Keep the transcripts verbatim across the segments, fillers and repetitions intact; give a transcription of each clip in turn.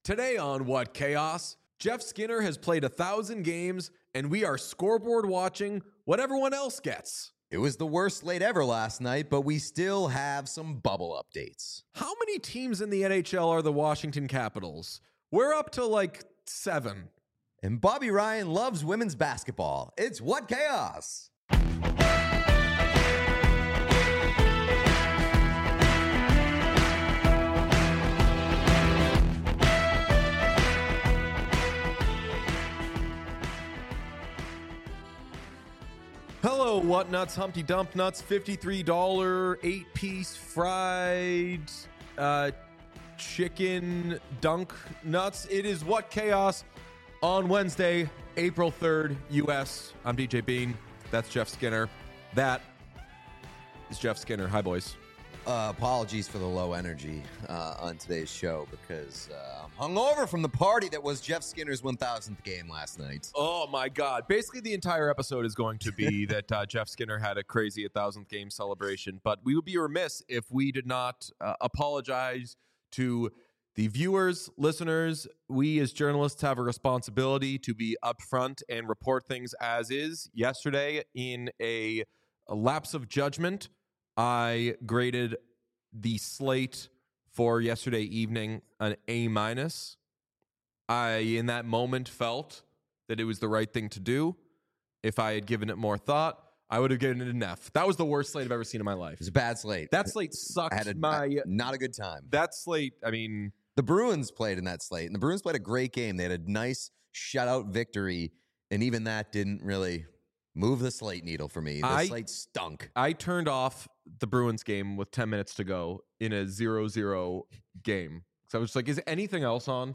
Today on What Chaos, Jeff Skinner has played a thousand games, and we are scoreboard watching what everyone else gets. It was the worst slate ever last night, but we still have some bubble updates. How many teams in the N H L are the Washington Capitals? We're up to like seven. And Bobby Ryan loves women's basketball. It's What Chaos! Hello, What Nuts, Humpty Dump Nuts, fifty-three dollars eight-piece fried uh, chicken dunk nuts. It is What Chaos on Wednesday, April third, U S. I'm D J Bean. That's Jeff Skinner. That is Jeff Skinner. Hi, boys. Uh, apologies for the low energy uh, on today's show because uh, I'm hungover from the party that was Jeff Skinner's one thousandth game last night. Oh, my God. Basically, the entire episode is going to be that uh, Jeff Skinner had a crazy one thousandth game celebration, but we would be remiss if we did not uh, apologize to the viewers, listeners. We as journalists have a responsibility to be upfront and report things as is. Yesterday, in a, a lapse of judgment, I graded the slate for yesterday evening an A minus. I, in that moment, felt that it was the right thing to do. If I had given it more thought, I would have given it an F. That was the worst slate I've ever seen in my life. It was a bad slate. That slate sucked. I had a, my I, not a good time. That slate, I mean, the Bruins played in that slate, and the Bruins played a great game. They had a nice shutout victory, and even that didn't really move the slate needle for me. The I, slate stunk. I turned off the Bruins game with ten minutes to go in a zero zero game. So I was just like, is anything else on?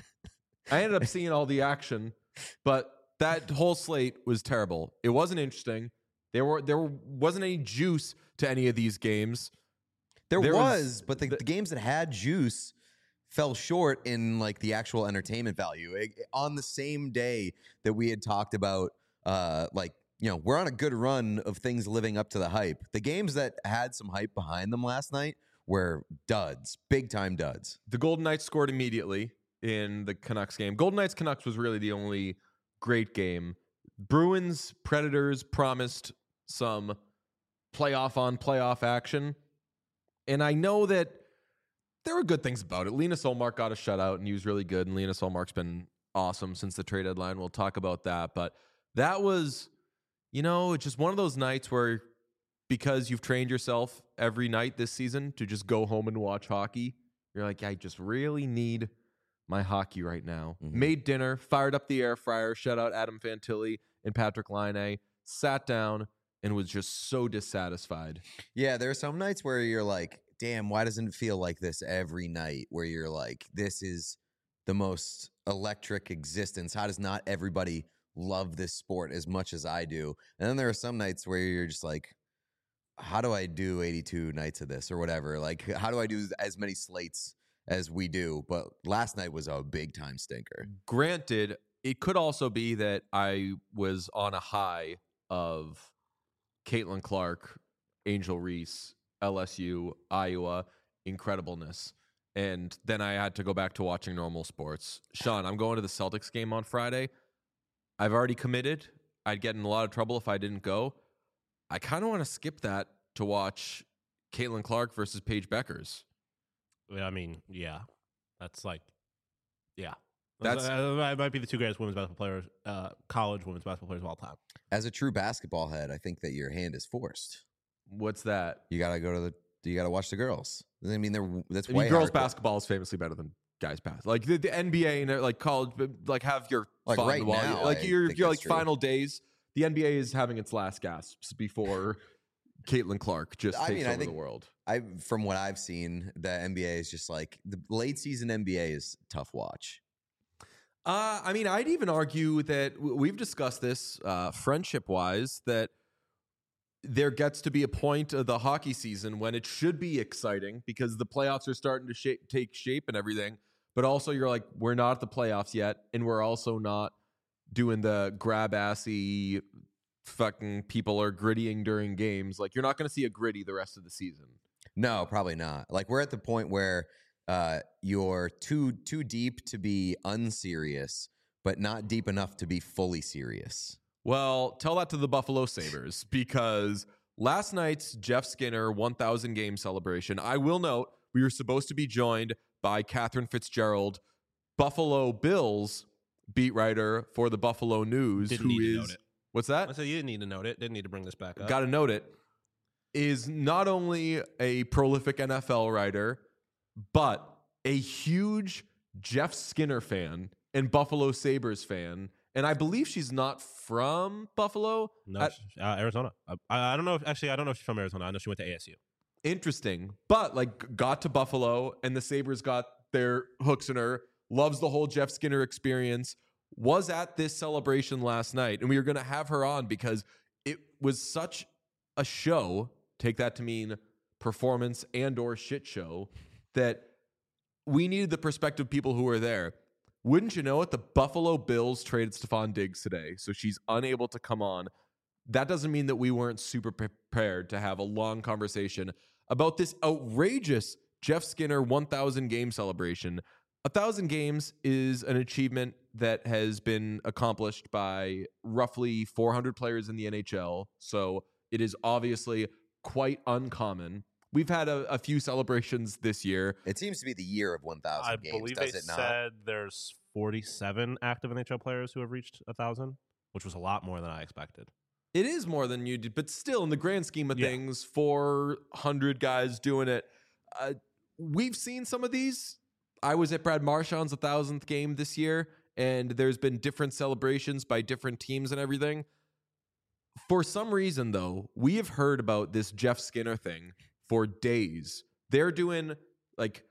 I ended up seeing all the action, but that whole slate was terrible. It wasn't interesting. There were there wasn't any juice to any of these games. There, there was, was, but the, the, the games that had juice fell short in like the actual entertainment value. It, on the same day that we had talked about, uh, like, you know, we're on a good run of things living up to the hype. The games that had some hype behind them last night were duds, big time duds. The Golden Knights scored immediately in the Canucks game. Golden Knights Canucks was really the only great game. Bruins Predators promised some playoff on playoff action. And I know that there were good things about it. Linus Ullmark got a shutout and he was really good. And Linus Ullmark's been awesome since the trade deadline. We'll talk about that. But that was, you know, it's just one of those nights where because you've trained yourself every night this season to just go home and watch hockey, you're like, I just really need my hockey right now. Mm-hmm. Made dinner, fired up the air fryer, shout out Adam Fantilli and Patrick Laine, sat down and was just so dissatisfied. Yeah, there are some nights where you're like, damn, why doesn't it feel like this every night? Where you're like, this is the most electric existence. How does not everybody love this sport as much as I do? And then there are some nights where you're just like, how do I do eighty-two nights of this or whatever? Like, how do I do as many slates as we do? But last night was a big time stinker. Granted, it could also be that I was on a high of Caitlin Clark, Angel Reese, L S U, Iowa, incredibleness. And then I had to go back to watching normal sports. Sean, I'm going to the Celtics game on Friday. I've already committed. I'd get in a lot of trouble if I didn't go. I kind of want to skip that to watch Caitlin Clark versus Paige Beckers. I mean, yeah. That's like, yeah. That's uh, that might be the two greatest women's basketball players, uh, college women's basketball players of all time. As a true basketball head, I think that your hand is forced. What's that? You got to go to the, you got to watch the girls. I mean, they're, that's I way mean, girls hardcore. basketball is famously better than guys basketball. Like the, the N B A and like college, like have your like fun right while now, you, like I your think your that's like true. final days. The N B A is having its last gasps before Caitlin Clark just I takes mean, I over think the world. I, from what I've seen, the N B A is just like the late season N B A is tough watch. Uh, I mean, I'd even argue that w- we've discussed this uh, friendship-wise, that there gets to be a point of the hockey season when it should be exciting because the playoffs are starting to shape, take shape and everything. But also you're like, we're not at the playoffs yet, and we're also not doing the grab-assy fucking people are grittying during games. Like, you're not going to see a gritty the rest of the season. No, probably not. Like, we're at the point where uh, you're too too deep to be unserious, but not deep enough to be fully serious. Well, tell that to the Buffalo Sabres because last night's Jeff Skinner one thousand game celebration, I will note we were supposed to be joined by Catherine Fitzgerald, Buffalo Bills beat writer for the Buffalo News. Didn't who need to is note it. What's I that? said you didn't need to note it. Didn't need to bring this back up. Got to note it. Is not only a prolific N F L writer, but a huge Jeff Skinner fan and Buffalo Sabres fan. And I believe she's not from Buffalo. No, I- she- uh, Arizona. I, I don't know. If, actually, I don't know if she's from Arizona. I know she went to A S U. Interesting. But like got to Buffalo and the Sabres got their hooks in her, loves the whole Jeff Skinner experience, was at this celebration last night. And we were going to have her on because it was such a show, take that to mean performance and or shit show, that we needed the perspective of people who were there. Wouldn't you know it? The Buffalo Bills traded Stephon Diggs today, so she's unable to come on. That doesn't mean that we weren't super prepared to have a long conversation about this outrageous Jeff Skinner one thousand game celebration. one thousand games is an achievement that has been accomplished by roughly four hundred players in the N H L, so it is obviously quite uncommon. We've had a, a few celebrations this year. It seems to be the year of one thousand I games, believe does they it not? said there's forty-seven active N H L players who have reached one thousand, which was a lot more than I expected. It is more than you did, but still, in the grand scheme of Yeah. things, four hundred guys doing it. Uh, we've seen some of these. I was at Brad Marchand's one thousandth game this year, and there's been different celebrations by different teams and everything. For some reason, though, we have heard about this Jeff Skinner thing for days. They're doing like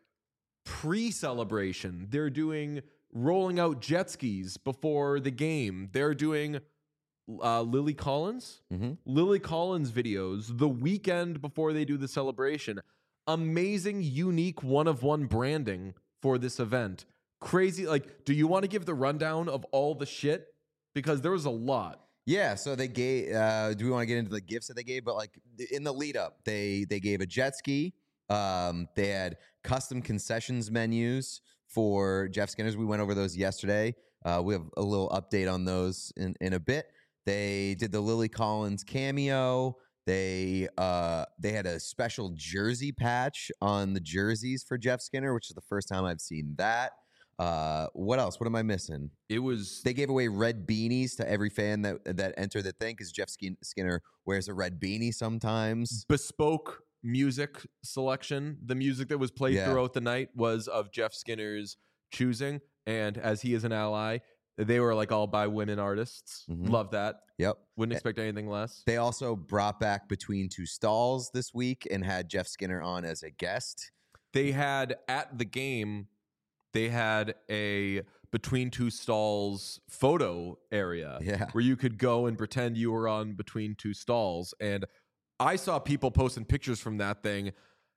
pre-celebration. They're doing rolling out jet skis before the game. They're doing uh, Lily Collins, Mm-hmm. Lily Collins videos the weekend before they do the celebration. Amazing, unique, one of one branding for this event. Crazy. Like, do you want to give the rundown of all the shit? Because there was a lot. Yeah, so they gave. Uh, do we want to get into the gifts that they gave? But like in the lead up, they they gave a jet ski. Um, they had custom concessions menus for Jeff Skinner's. We went over those yesterday. Uh, we have a little update on those in, in a bit. They did the Lily Collins cameo. They uh, they had a special jersey patch on the jerseys for Jeff Skinner, which is the first time I've seen that. Uh, what else? What am I missing? It was They gave away red beanies to every fan that that entered the thing because Jeff Skin- Skinner wears a red beanie sometimes. bespoke music selection. The music that was played Yeah. throughout the night was of Jeff Skinner's choosing. And as he is an ally, they were like all by women artists. Mhm. Love that. Yep. Wouldn't expect anything less. They also brought back Between Two Stalls this week and had Jeff Skinner on as a guest. They had at the game, they had a Between Two Stalls photo area Yeah. where you could go and pretend you were on Between Two Stalls. And I saw people posting pictures from that thing.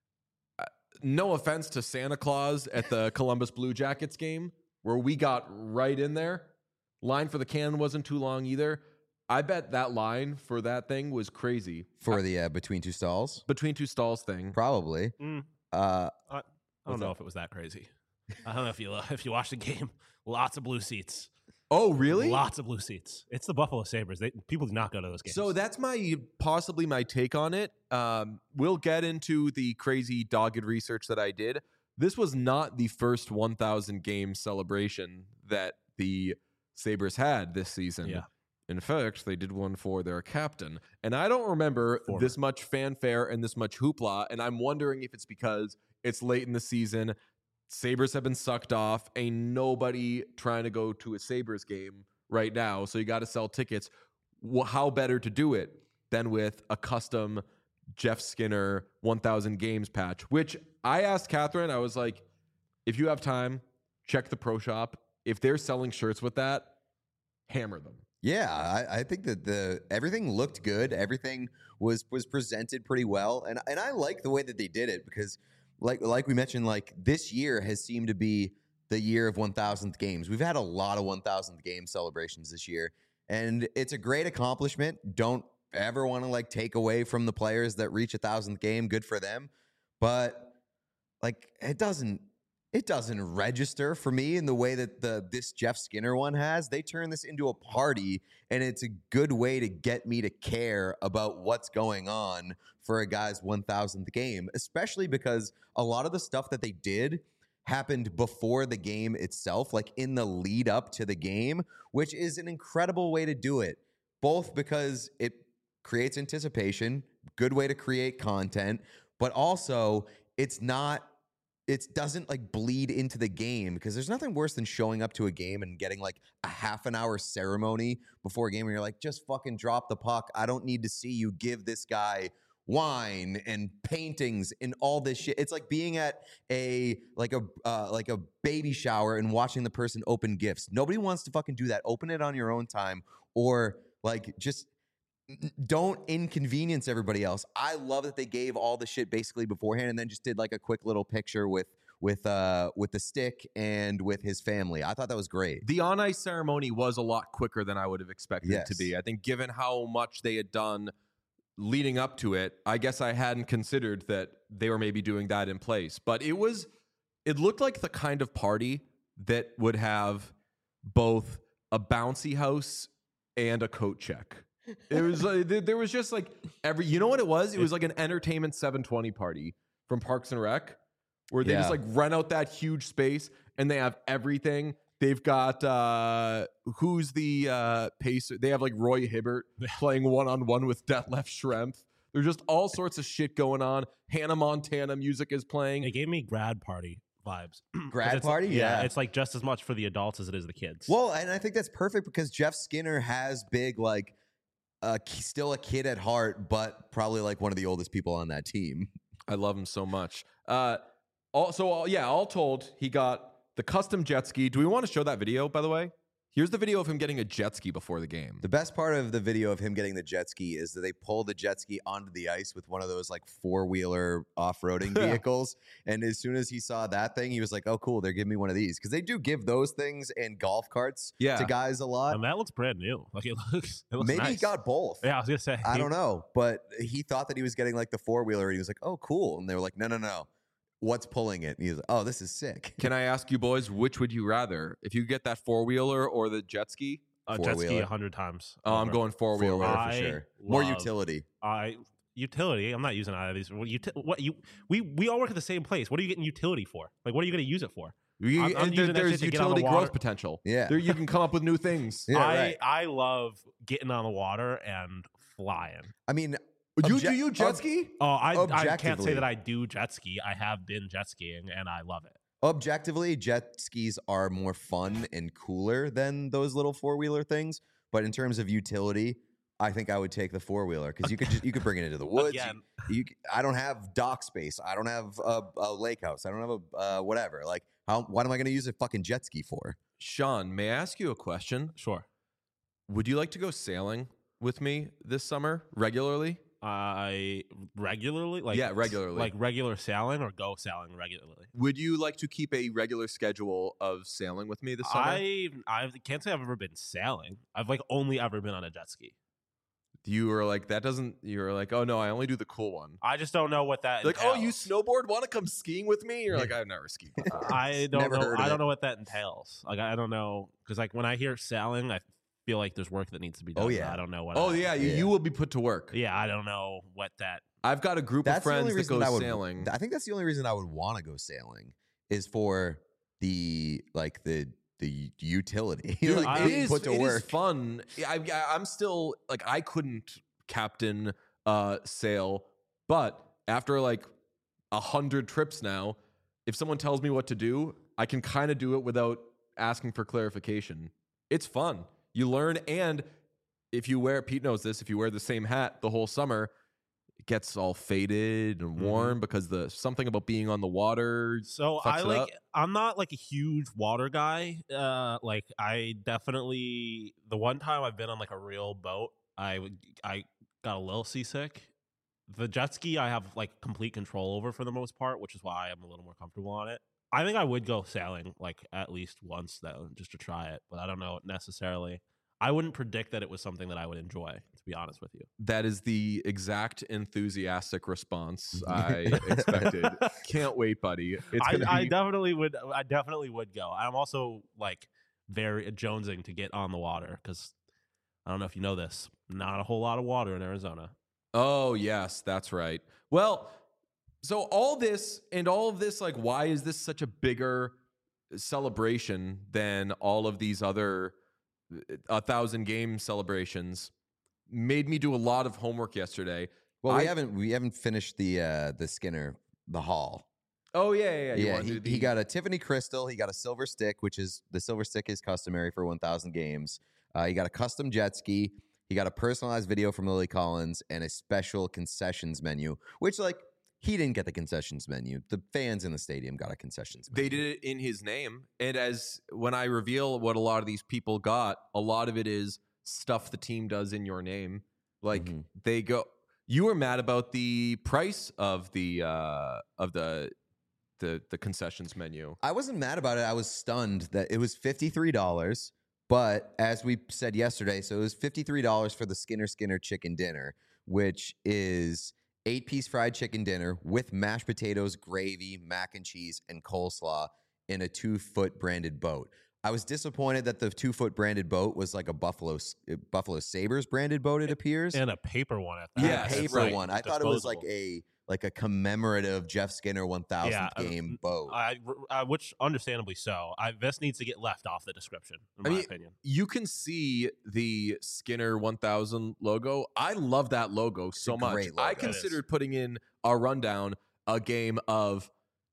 Uh, No offense to Santa Claus at the Columbus Blue Jackets game, where we got right in there. Line for the can wasn't too long either. I bet that line for that thing was crazy. For the uh, Between Two Stalls? Between Two Stalls thing. Probably. Mm, Uh, I, I don't What's know that? if it was that crazy. I don't know if you uh, if you watched the game. Lots of blue seats. Oh, really? Lots of blue seats. It's the Buffalo Sabres. They, people do not go to those games. So that's my possibly my take on it. Um, we'll get into the crazy dogged research that I did. This was not the first one thousand game celebration that the Sabres had this season. Yeah. In fact, they did one for their captain. And I don't remember Former. this much fanfare and this much hoopla. And I'm wondering if it's because it's late in the season. Sabres have been sucked off. Ain't nobody trying to go to a Sabres game right now. So you got to sell tickets. Well, how better to do it than with a custom Jeff Skinner one thousand games patch, which I asked Catherine, I was like, if you have time, check the pro shop. If they're selling shirts with that, hammer them. yeah, I, I think that the everything looked good. Everything was was presented pretty well, and and I like the way that they did it because, like like we mentioned, like this year has seemed to be the year of one thousandth games. We've had a lot of one thousandth game celebrations this year, and it's a great accomplishment. Don't ever want to like take away from the players that reach a thousandth game. Good for them, but like it doesn't it doesn't register for me in the way that the this Jeff Skinner one has. They turn this into a party, and it's a good way to get me to care about what's going on for a guy's one thousandth game, especially because a lot of the stuff that they did happened before the game itself, like in the lead up to the game, which is an incredible way to do it, both because it creates anticipation, good way to create content, but also it's not it doesn't like bleed into the game, because there's nothing worse than showing up to a game and getting like a half an hour ceremony before a game where you're like, just fucking drop the puck. I don't need to see you give this guy wine and paintings and all this shit. It's like being at a like a uh, like a baby shower and watching the person open gifts. Nobody wants to fucking do that. Open it on your own time, or like just don't inconvenience everybody else. I love that they gave all the shit basically beforehand and then just did like a quick little picture with with uh with the stick and with his family. I thought that was great. The on ice ceremony was a lot quicker than I would have expected Yes. it to be. I think given how much they had done leading up to it, I guess I hadn't considered that they were maybe doing that in place. But it was it looked like the kind of party that would have both a bouncy house and a coat check. It was like, there was just like every, you know what it was? It was like an entertainment seven twenty party from Parks and Rec, where they Yeah. just like rent out that huge space and they have everything. They've got uh who's the uh pacer? They have like Roy Hibbert playing one on one with Detlef Schrempf. There's just all sorts of shit going on. Hannah Montana music is playing. It gave me grad party vibes. 'Cause Grad it's- party? Yeah. It's like just as much for the adults as it is the kids. Well, and I think that's perfect because Jeff Skinner has big, like, uh, still a kid at heart, but probably like one of the oldest people on that team. I love him so much. Uh, all, so all, yeah, all told, he got the custom jet ski. Do we want to show that video, by the way? Here's the video of him getting a jet ski before the game. The best part of the video of him getting the jet ski is that they pull the jet ski onto the ice with one of those like four-wheeler off-roading vehicles. And as soon as he saw that thing, he was like, oh, cool, they're giving me one of these. Because they do give those things and golf carts Yeah. to guys a lot. and that looks brand new. Like it looks. It looks Maybe he nice. got both. Yeah, I was gonna say. I don't know. But he thought that he was getting like the four-wheeler, and he was like, oh, cool. And they were like, no, no, no. What's pulling it? And he was like, oh, this is sick. Can I ask you boys, which would you rather? If you get that four-wheeler or the jet ski? A jet ski Four-wheeler. a hundred times. Oh, I'm over. going four-wheeler. Four-wheeler I for sure. More love- utility. I utility. I'm not using either of these. What, uti- what you? We we all work at the same place. What are you getting utility for? Like, what are you going to use it for? You- I'm- I'm and there- using that there's shit to get on the utility water. growth potential. Yeah. There, you can come up with new things. Yeah, I right. I love getting on the water and flying. I mean, You Obje- do you jet ob- ski? Oh, I I can't Objectively. say that I do jet ski. I have been jet skiing and I love it. objectively, jet skis are more fun and cooler than those little four-wheeler things. But in terms of utility, I think I would take the four-wheeler because you could just, you could bring it into the woods. You- Again, You, c- I don't have dock space. I don't have a, a lake house. I don't have a uh, whatever. Like, how? What am I going to use a fucking jet ski for? Sean, may I ask you a question? sure. Would you like to go sailing with me this summer regularly? I regularly like Yeah, regularly. like regular sailing or go sailing regularly. Would you like to keep a regular schedule of sailing with me this summer? I I can't say I've ever been sailing. I've like only ever been on a jet ski. You were like, that doesn't, you were like, oh no, I only do the cool one. I just don't know what that Like, oh, you entails. snowboard? Want to come skiing with me? You're like, I've never skied before. I don't Never know. heard of I don't it. know what that entails. Like I don't know because like when I hear sailing, I feel like there's work that needs to be done. Oh, but yeah. I don't know what. oh I, yeah, you, Yeah. you will be put to work. yeah. I don't know what that. I've got a group of That's the friends only that reason go that I would. sailing. I think that's the only reason I would want to go sailing is for the like the the utility. Dude, like, I- it being is, put to it is work. fun. I, I, I'm still like, I couldn't captain uh, sail, but after like a hundred trips now, if someone tells me what to do, I can kind of do it without asking for clarification. It's fun. You learn, and if you wear, Pete knows this, if you wear the same hat the whole summer, it gets all faded and Mhm. warm because the something about being on the water. So fucks I it like. up. I'm not like a huge water guy. Uh, like I definitely the one time I've been on like a real boat, I would I got a little seasick. The jet ski I have like complete control over for the most part, which is why I'm a little more comfortable on it. I think I would go sailing like at least once though, just to try it, but I don't know necessarily. I wouldn't predict that it was something that I would enjoy, to be honest with you. That is the exact enthusiastic response I expected. Can't wait, buddy. It's I, gonna I be definitely would. I definitely would go. I'm also like very jonesing to get on the water because I don't know if you know this. Not a whole lot of water in Arizona. Oh, yes, that's right. Well, so all this and all of this, like, why is this such a bigger celebration than all of these other a thousand game celebrations? Made me do a lot of homework yesterday. Well, we I- haven't we haven't finished the uh, the Skinner the haul. Oh yeah, yeah, yeah. You Yeah, wanna he, do the- he got a Tiffany Crystal. He got a silver stick, which is the silver stick is customary for one thousand games. Uh, he got a custom jet ski. He got a personalized video from Lily Collins and a special concessions menu, which like he didn't get the concessions menu. The fans in the stadium got a concessions menu. They did it in his name. And as when I reveal what a lot of these people got, a lot of it is stuff the team does in your name. Like Mhm. they go you were mad about the price of the uh of the the the concessions menu. I wasn't mad about it. I was stunned that it was fifty-three dollars. But as we said yesterday, so it was fifty-three dollars for the Skinner Skinner chicken dinner, which is eight piece fried chicken dinner with mashed potatoes, gravy, mac and cheese, and coleslaw in a two foot branded boat. I was disappointed that the two foot branded boat was like a Buffalo uh, Buffalo Sabres branded boat. It appears, And a paper one at that. a Yes, That's paper right. one. I thought it was like Disposable. a like a commemorative Jeff Skinner one thousandth Yeah, uh, game boat. I, I, which understandably so. I, this needs to get left off the description, in I my mean, opinion. You can see the Skinner one thousand logo. I love that logo so a much. great I logo. It is. considered putting in a rundown a game of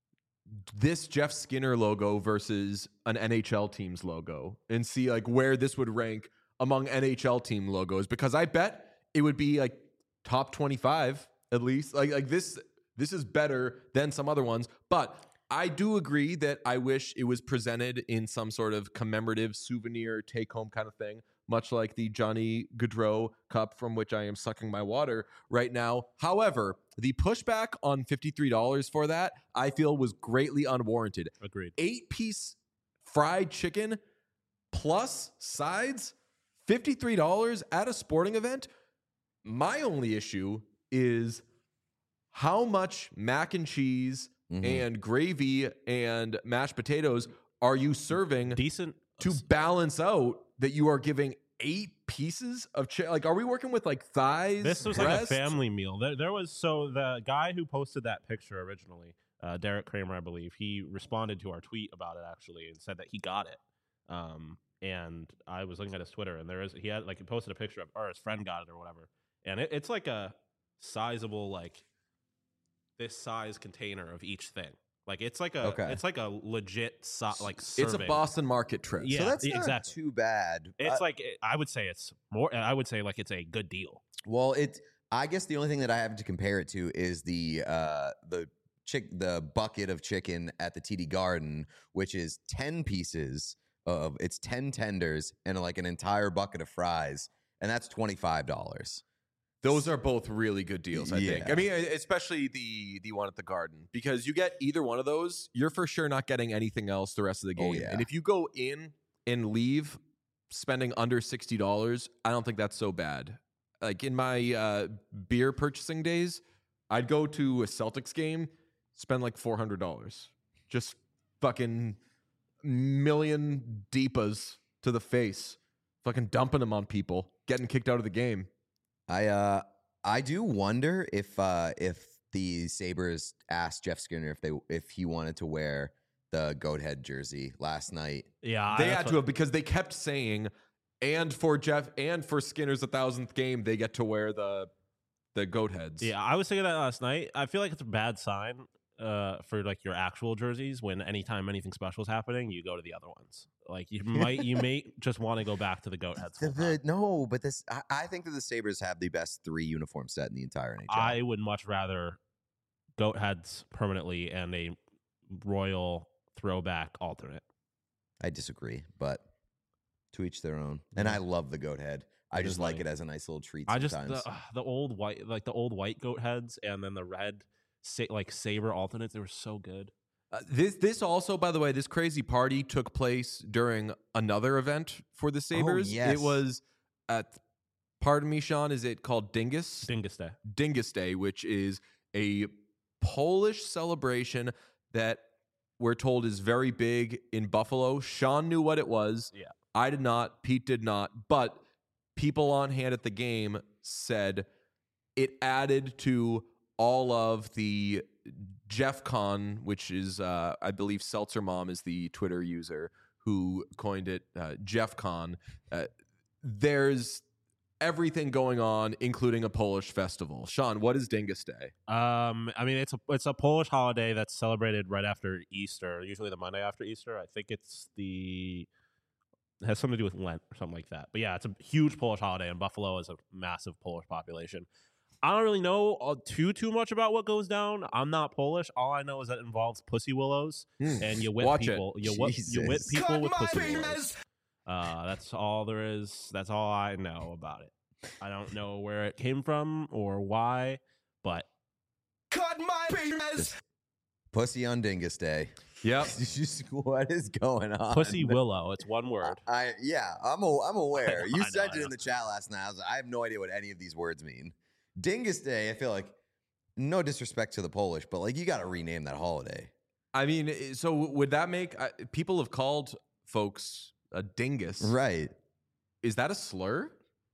this Jeff Skinner logo versus an N H L team's logo and see like where this would rank among N H L team logos, because I bet it would be like top twenty-five at least. Like like this this is better than some other ones, but I do agree that I wish it was presented in some sort of commemorative souvenir take home kind of thing, much like the Johnny Gaudreau cup from which I am sucking my water right now. However, the pushback on fifty-three dollars for that, I feel, was greatly unwarranted. Agreed. Eight piece fried chicken plus sides, fifty-three dollars at a sporting event. My only issue is how much mac and cheese Mhm. and gravy and mashed potatoes are you serving Decent. to balance out that you are giving eight pieces of chicken? Like, are we working with like thighs? This was like a breasts? family meal. There, there was so the guy who posted that picture originally, uh, Derek Kramer, I believe, he responded to our tweet about it actually and said that he got it. Um, and I was looking at his Twitter, and there is he had like he posted a picture of, or his friend got it or whatever, and it, it's like a sizable like this size container of each thing. Like it's like a Okay. it's like a legit so, like It's a serving. Boston market trip. Yeah, so that's e- not exactly. too bad. It's Uh, like I would say it's more. I would say like it's a good deal. well, it. I guess the only thing that I have to compare it to is the uh, the chick the bucket of chicken at the T D Garden, which is ten pieces of it's ten tenders and like an entire bucket of fries, and that's twenty five dollars. Those are both really good deals, I think. Yeah. I mean, especially the the one at the Garden, because you get either one of those, you're for sure not getting anything else the rest of the Oh, game. yeah. And if you go in and leave spending under sixty dollars, I don't think that's so bad. Like in my uh, beer purchasing days, I'd go to a Celtics game, spend like four hundred dollars, just fucking million deepas to the face, fucking dumping them on people, getting kicked out of the game. I uh I do wonder if uh if the Sabres asked Jeff Skinner if they if he wanted to wear the goat head jersey last night. Yeah, They that's had what- to have, because they kept saying, and for Jeff and for Skinner's a thousandth game, they get to wear the the goat heads. Yeah, I was thinking that last night. I feel like it's a bad sign uh, for like your actual jerseys when anytime anything special is happening, you go to the other ones. Like you might, you may just want to go back to the goat heads. The, full the, time. no, but this I, I think that the Sabres have the best three uniform set in the entire N H L. I would much rather goat heads permanently and a royal throwback alternate. I disagree, but to each their own. And Yeah. I love the goat head. I It just is like nice. it as a nice little treat I just sometimes. the, uh, the old white, like the old white goat heads, and then the red, sa- like saber alternates. They were so good. Uh, this this also, by the way, this crazy party took place during another event for the Sabres. yes. It was at, pardon me, Sean, is it called Dingus? Dingus Day. Dingus Day, which is a Polish celebration that we're told is very big in Buffalo. Sean knew what it was. Yeah. I did not. Pete did not. But people on hand at the game said it added to all of the Jeff Con, which is, uh, I believe, Seltzer Mom is the Twitter user who coined it, uh, Jeff Con. Uh, there's everything going on, including a Polish festival. Sean, what is Dingus Day? Um, I mean, it's a it's a Polish holiday that's celebrated right after Easter, usually the Monday after Easter. I think it's the it has something to do with Lent or something like that. But yeah, it's a huge Polish holiday, and Buffalo is a massive Polish population. I don't really know uh, too too much about what goes down. I'm not Polish. All I know is that it involves pussy willows, Mm. and you whip Watch people. You whip, you whip Jesus. people with pussy willows. Uh, that's all there is. That's all I know about it. I don't know where it came from or why, but Cut my penis. Pussy on Dingus Day. Yep. Just, what is going on? pussy willow. It's one word. I yeah, I'm a, I'm aware. I know, You I know, sent I it know. in the chat last night. I was like, I have no idea what any of these words mean. Dingus Day. I feel like no disrespect to the Polish, but like you got to rename that holiday. I mean, i- so would that make uh, people have called folks a dingus? Right. Is that a slur?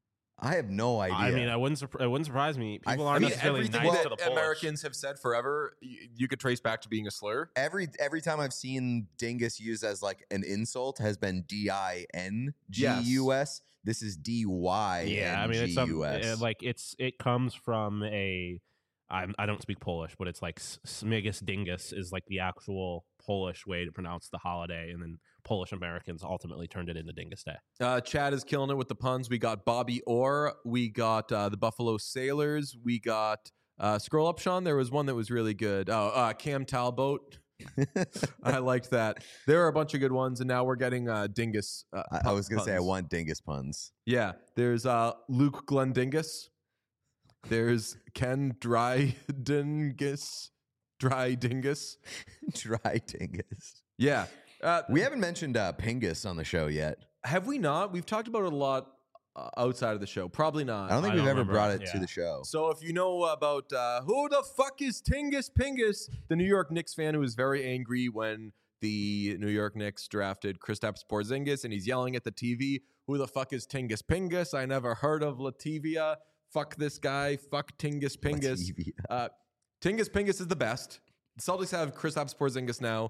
I have no idea. I mean, I wouldn't. Surp- it wouldn't surprise me. I- People I aren't I mean, necessarily everything nice that to the Polish. Americans have said forever, you, you could trace back to being a slur. every every time I've seen dingus used as like an insult has been D I N G U S. This is D Y Yeah, I mean, N it's G a, U S. uh, like it's it comes from a. I'm, I don't speak Polish, but it's like S- Smigus Dingus is like the actual Polish way to pronounce the holiday, and then Polish Americans ultimately turned it into Dingus Day. Uh, Chad is killing it with the puns. We got Bobby Orr. We got uh, the Buffalo Sailors. We got uh, scroll up, Sean. There was one that was really good. Oh, uh, Cam Talbot. I liked that. There are a bunch of good ones, and now we're getting uh, Dingus. Uh, I, I pu- was gonna say I puns. want dingus puns. Yeah, there's uh, Luke Glendingus. There's Ken Drydingus. Drydingus. Dry dingus. Yeah. Uh, We haven't mentioned uh, Pingus on the show yet. have we not? We've talked about it a lot uh, outside of the show. Probably not. I don't think I we've don't ever remember. brought it to Yeah. the show. So if you know about uh, who the fuck is Tingus Pingus, the New York Knicks fan who was very angry when the New York Knicks drafted Kristaps Porzingis, and he's yelling at the T V, "Who the fuck is Tingus Pingus? I never heard of Lativia. Fuck this guy. Fuck Tingus Pingus." Lativia. Uh, Tingus Pingus is the best. The Celtics have Kristaps Porzingis now.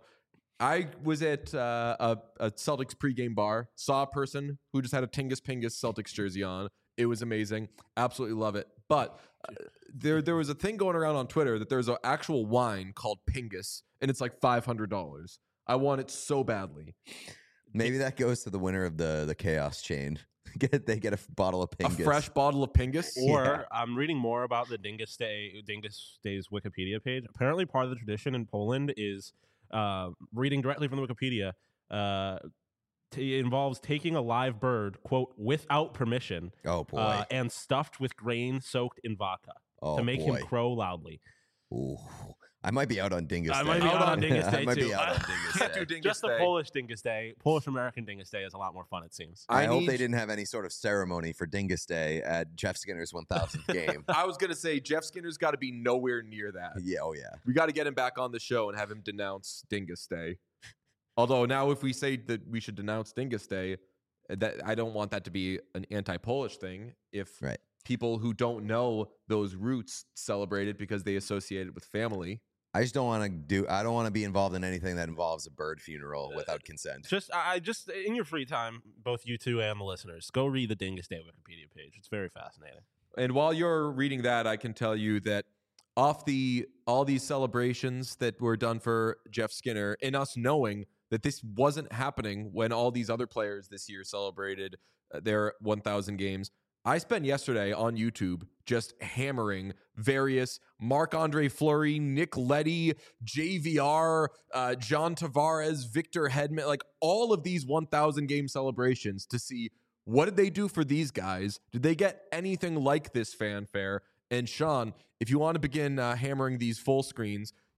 I was at uh, a, a Celtics pregame bar, saw a person who just had a Tingus Pingus Celtics jersey on. It was amazing. Absolutely love it. But uh, there there was a thing going around on Twitter that there's an actual wine called Pingus, and it's like five hundred dollars. I want it so badly. Maybe that goes to the winner of the the chaos chain. Get they get a f- bottle of Pingus. A fresh bottle of Pingus. Or Yeah. I'm reading more about the Dingus Day Dingus Day's Wikipedia page. Apparently, part of the tradition in Poland is uh, reading directly from the Wikipedia. Uh, t- it involves taking a live bird, quote, without permission, Oh boy. uh, and stuffed with grain soaked in vodka oh to make boy. him crow loudly. Ooh. I might be out on Dingus I Day. might be out on Dingus I Day, might too. be out on I Dingus Can't Day. do Dingus Just the Day. Polish Dingus Day, Polish American Dingus Day is a lot more fun. It seems. I, I hope need- they didn't have any sort of ceremony for Dingus Day at Jeff Skinner's one thousandth game. I was gonna say Jeff Skinner's got to be nowhere near that. Yeah, oh yeah. We got to get him back on the show and have him denounce Dingus Day. Although now, if we say that we should denounce Dingus Day, that I don't want that to be an anti-Polish thing. If Right. people who don't know those roots celebrate it because they associate it with family. I just don't want to do. I don't want to be involved in anything that involves a bird funeral without consent. Just, I I just in your free time, both you two and the listeners, go read the Dingus Day Wikipedia page. It's very fascinating. And while you're reading that, I can tell you that off the all these celebrations that were done for Jeff Skinner, and us knowing that this wasn't happening when all these other players this year celebrated uh, their one thousand games, I spent yesterday on YouTube just hammering various Marc-Andre Fleury, Nick Leddy, J V R, uh, John Tavares, Victor Hedman, like all of these one thousand game celebrations to see what did they do for these guys? Did they get anything like this fanfare? And Sean, if you want to begin uh, hammering these full screens,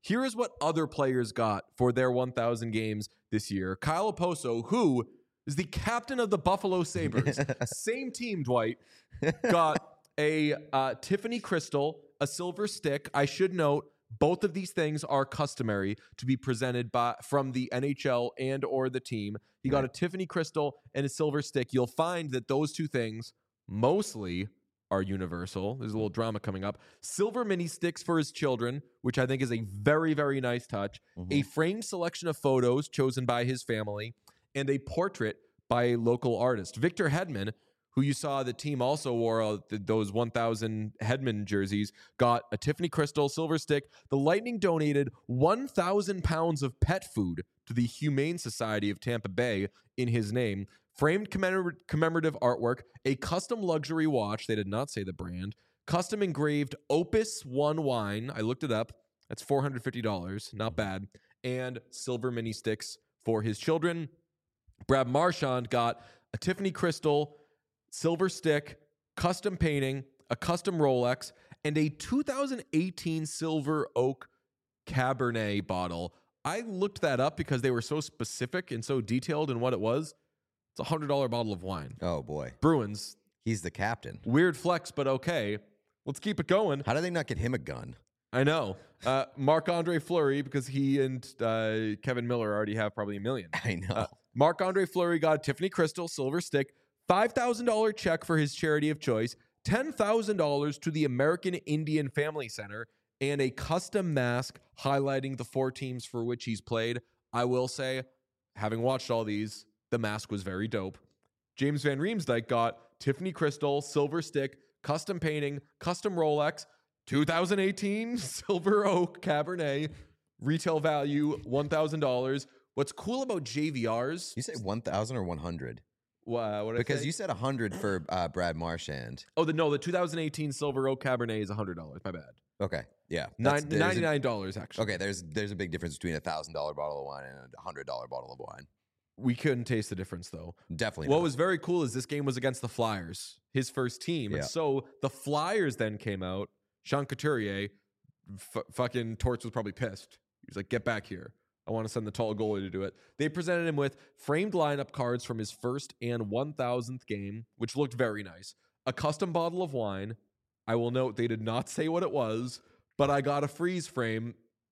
Here is what other players got for their one thousand games this year. Kyle Oposo, who is the captain of the Buffalo Sabres, same team, Dwight, got a uh, Tiffany crystal, a silver stick. I should note, both of these things are customary to be presented by from the N H L and or the team. He got a Tiffany crystal and a silver stick. You'll find that those two things mostly are universal. There's a little drama coming up. Silver mini sticks for his children, which I think is a very, very nice touch. Mhm. A framed selection of photos chosen by his family, and a portrait by a local artist. Victor Hedman, who you saw the team also wore uh, th- those one thousand Hedman jerseys, got a Tiffany crystal, silver stick. The Lightning donated one thousand pounds of pet food to the Humane Society of Tampa Bay in his name. Framed commemor- commemorative artwork, a custom luxury watch. They did not say the brand. Custom engraved Opus One wine. I looked it up. That's four hundred fifty dollars. Not bad. And silver mini sticks for his children. Brad Marchand got a Tiffany crystal, silver stick, custom painting, a custom Rolex, and a two thousand eighteen Silver Oak Cabernet bottle. I looked that up because they were so specific and so detailed in what it was. It's a one hundred dollars bottle of wine. Oh, boy. Bruins, He's the captain. weird flex, but okay. Let's keep it going. How do they not get him a gun? I know. Uh, Marc-Andre Fleury, because he and uh, Kevin Miller already have probably a million. I know. Uh, Marc-Andre Fleury got a Tiffany crystal, silver stick, five thousand dollars check for his charity of choice, ten thousand dollars to the American Indian Family Center, and a custom mask highlighting the four teams for which he's played. I will say, having watched all these, the mask was very dope. James Van Riemsdyk got Tiffany crystal, silver stick, custom painting, custom Rolex, two thousand eighteen Silver Oak Cabernet, retail value one thousand dollars. What's cool about J V Rs? You say one thousand or one hundred? Wow, what did I Because say? you said one hundred for uh, Brad Marchand. Oh, the no, the two thousand eighteen Silver Oak Cabernet is one hundred dollars. My bad. Okay. Yeah. Nine, That's- there's a- ninety-nine dollars, actually. Okay, there's there's a big difference between a thousand dollar bottle of wine and a one hundred dollar bottle of wine. We couldn't taste the difference, though. Definitely. What not. was very cool is this game was against the Flyers, his first team. Yeah. And so the Flyers then came out. Sean Couturier, f- fucking Torts was probably pissed. He was like, get back here. I want to send the tall goalie to do it. They presented him with framed lineup cards from his first and one thousandth game, which looked very nice. A custom bottle of wine. I will note they did not say what it was, but I got a freeze frame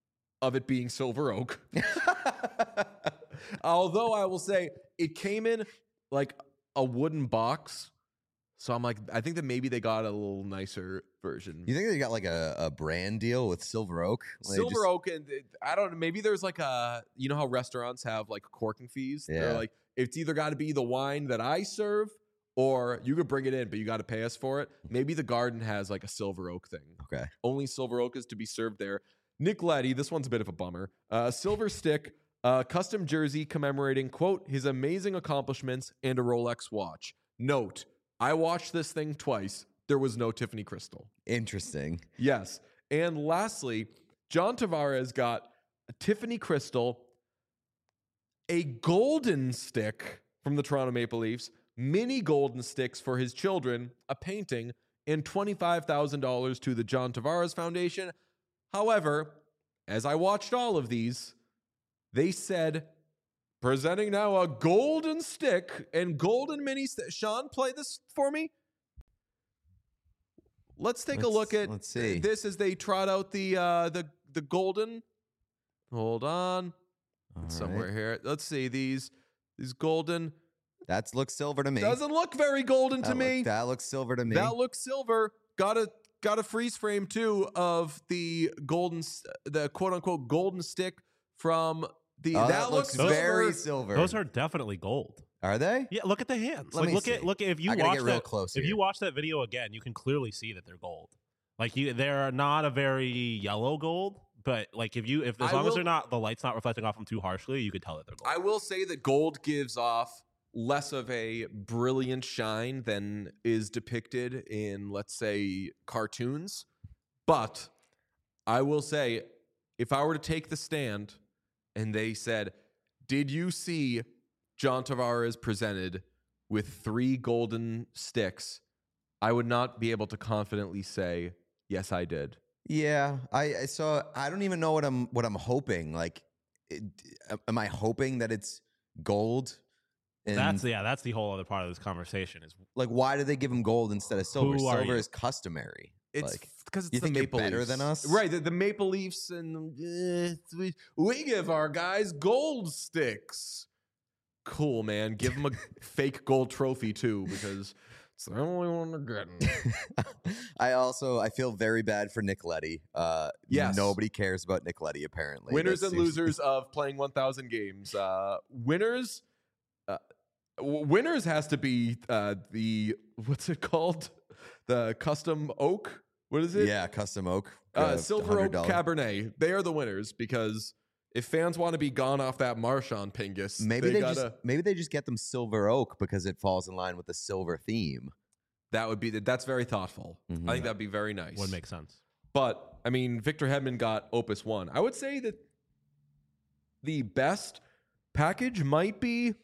of it being Silver Oak. Although I will say it came in like a wooden box. So I'm like, I think that maybe they got a little nicer version. You think they got like a, a brand deal with Silver Oak? Like, Silver just- Oak, and it- I don't know. Maybe there's like a, you know how restaurants have like corking fees? Yeah. They're like, it's either got to be the wine that I serve or you could bring it in, but you got to pay us for it. Maybe the garden has like a Silver Oak thing. Okay. Only Silver Oak is to be served there. Nick Leddy, this one's a bit of a bummer. Uh, silver stick, uh, custom jersey commemorating, quote, his amazing accomplishments and a Rolex watch. Note, I watched this thing twice. There was no Tiffany crystal. Interesting. Yes. And lastly, John Tavares got a Tiffany crystal, a golden stick from the Toronto Maple Leafs, mini golden sticks for his children, a painting, and twenty-five thousand dollars to the John Tavares Foundation. However, as I watched all of these, they said, presenting now a golden stick and golden mini stick. Sean, play this for me. Let's take a Let's- look at let's see. this as they trot out the uh, the the golden. Hold on, All It's somewhere right. here. Let's see these these golden. That looks silver to me. Doesn't look very golden that to me. Look, that looks silver to me. That looks silver. Got a got a freeze frame too of the golden, s- the quote unquote golden stick from the. Oh, that, looks, very silver. silver. Those are definitely gold. Are they? Yeah, look at the hands. Let like me look see. at look at if you I gotta watch get real that close if here. you watch that video again, you can clearly see that they're gold. Like you, they're not a very yellow gold, but like if you if as I long as will- they're not the light's not reflecting off them too harshly, you could tell that they're gold. I will say that gold gives off less of a brilliant shine than is depicted in, let's say, cartoons. But I will say, if I were to take the stand and they said, did you see John Tavares presented with three golden sticks? I would not be able to confidently say, yes, I did. Yeah, I, I so I don't even know what I'm what I'm hoping. Like, it, am I hoping that it's gold? And That's yeah. That's the whole other part of this conversation. Is like, why did they give him gold instead of silver? Who are Silver you? is customary. It's like, because it's you the think you're Maple better Leafs. than us? Right? The, the Maple Leafs and uh, we, we give our guys gold sticks. Cool, man. Give them a fake gold trophy too, because it's the only one they're getting. I also I feel very bad for Nick Leddy. Uh, Yes. nobody cares about Nick Leddy apparently. Winners That and seems- losers of playing one thousand games. Uh, winners, uh, w- winners has to be uh, the what's it called? The custom oak. What is it? Yeah, custom oak, uh, uh, Silver Oak one hundred dollars. Cabernet. They are the winners because if fans want to be gone off that Marchand Pingus, Maybe they, they, gotta. just maybe they just get them silver oak because it falls in line with the silver theme. That would be that's very thoughtful. Mhm. I think that'd be very nice. would make sense. But I mean, Victor Hedman got Opus One. I would say that the best package might be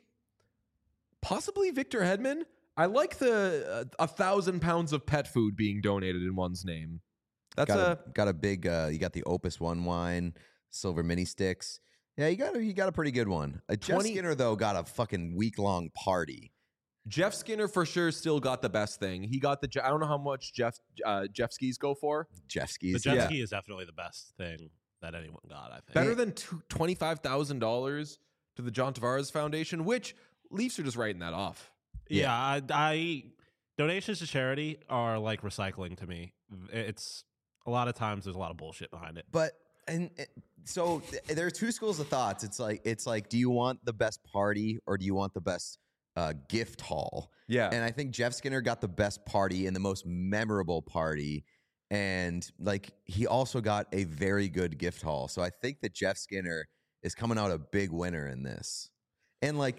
possibly Victor Hedman. I like the uh, a thousand pounds of pet food being donated in one's name. That's got a, a got a big. Uh, you got the Opus One wine, silver mini sticks. Yeah, you got a, you got a pretty good one. Uh, Jeff twenty Skinner though got a fucking week long party. Jeff Skinner for sure. Still got the best thing. He got the. Je- I don't know how much Jeff uh, Jeff skis go for. Jeff The skis. jet Yeah. ski is definitely the best thing that anyone got. I think. Better than twenty five thousand dollars to the John Tavares Foundation, which Leafs are just writing that off. Yeah, I, I donations to charity are like recycling to me. It's a lot of times there's a lot of bullshit behind it. But and uh, so th- there are two schools of thoughts. It's like it's like, do you want the best party or do you want the best uh, gift haul? Yeah, And I think Jeff Skinner got the best party and the most memorable party. And like he also got a very good gift haul. So I think that Jeff Skinner is coming out a big winner in this. And like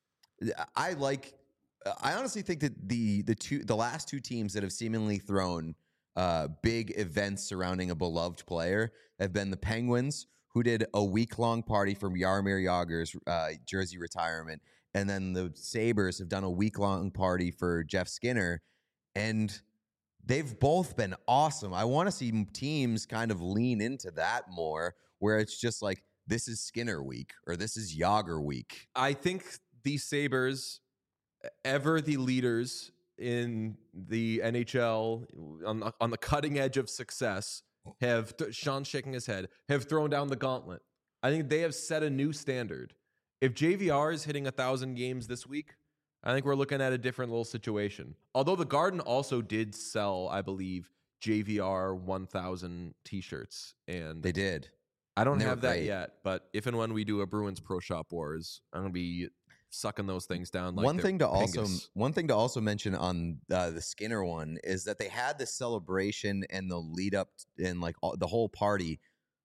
I like I honestly think that the the two the last two teams that have seemingly thrown uh, big events surrounding a beloved player have been the Penguins, who did a week long party for Jaromir Jagr's uh, jersey retirement, and then the Sabres have done a week long party for Jeff Skinner, and they've both been awesome. I want to see teams kind of lean into that more, where it's just like this is Skinner week or this is Jagr week. I think the Sabres, ever the leaders in the N H L on the, on the cutting edge of success, have Sean's shaking his head, have thrown down the gauntlet. I think they have set a new standard. If J V R is hitting a thousand games this week, I think we're looking at a different little situation. Although the Garden also did sell, I believe, J V R one thousand t-shirts, and They did. I don't and they were have that great. yet. But if and when we do a Bruins Pro Shop Wars, I'm gonna be sucking those things down. Like one they're thing to also Pingus. one thing to also mention on uh, the Skinner one is that they had this celebration and the lead up and like all, the whole party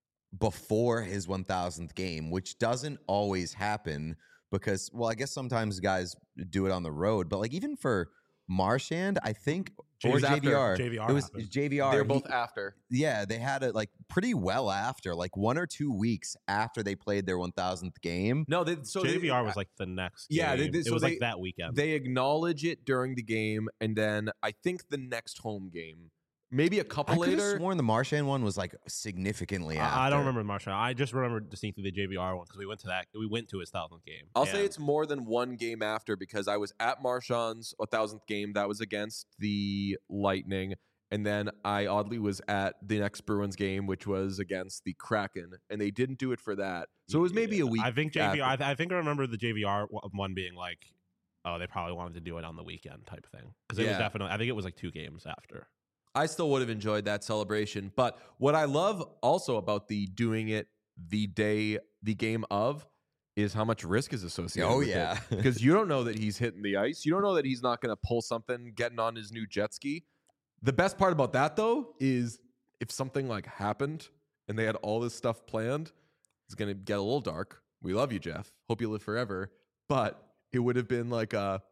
before his one thousandth game, which doesn't always happen because, well, I guess sometimes guys do it on the road, but like even for Marchand, I think or was after. J V R, J V R it was happened. J V R. They're he- both after. yeah, they had it like pretty well after, like one or two weeks after they played their one thousandth game. No, they, so J V R they, was like the next. Yeah, they- game. they- it so was they- like that weekend. They acknowledge it during the game, and then I think the next home game, maybe a couple I could have later. sworn the Marchand one was like significantly after. I, I don't remember Marchand. I just remember distinctly the J V R one because we went to that. We went to his thousandth game. I'll say And it's more than one game after because I was at Marchand's one thousandth game. That was against the Lightning. And then I oddly was at the next Bruins game, which was against the Kraken. And they didn't do it for that. So it was maybe a week. I think J V R. after. I, th- I think I remember the J V R one being like, oh, they probably wanted to do it on the weekend type thing because it was Yeah. definitely. I think it was like two games after. I still would have enjoyed that celebration. But what I love also about the doing it the day, the game of, is how much risk is associated Oh, with yeah. it. Because you don't know that he's hitting the ice. You don't know that he's not going to pull something getting on his new jet ski. The best part about that, though, is if something like happened and they had all this stuff planned, it's going to get a little dark. We love you, Jeff. Hope you live forever. But it would have been like a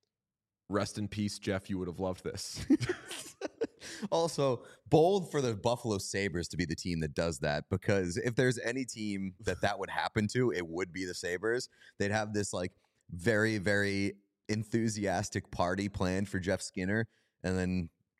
rest in peace, Jeff. You would have loved this. Also, bold for the Buffalo Sabres to be the team that does that, because if there's any team that that would happen to, it would be the Sabres. They'd have this like very, very enthusiastic party planned for Jeff Skinner, and then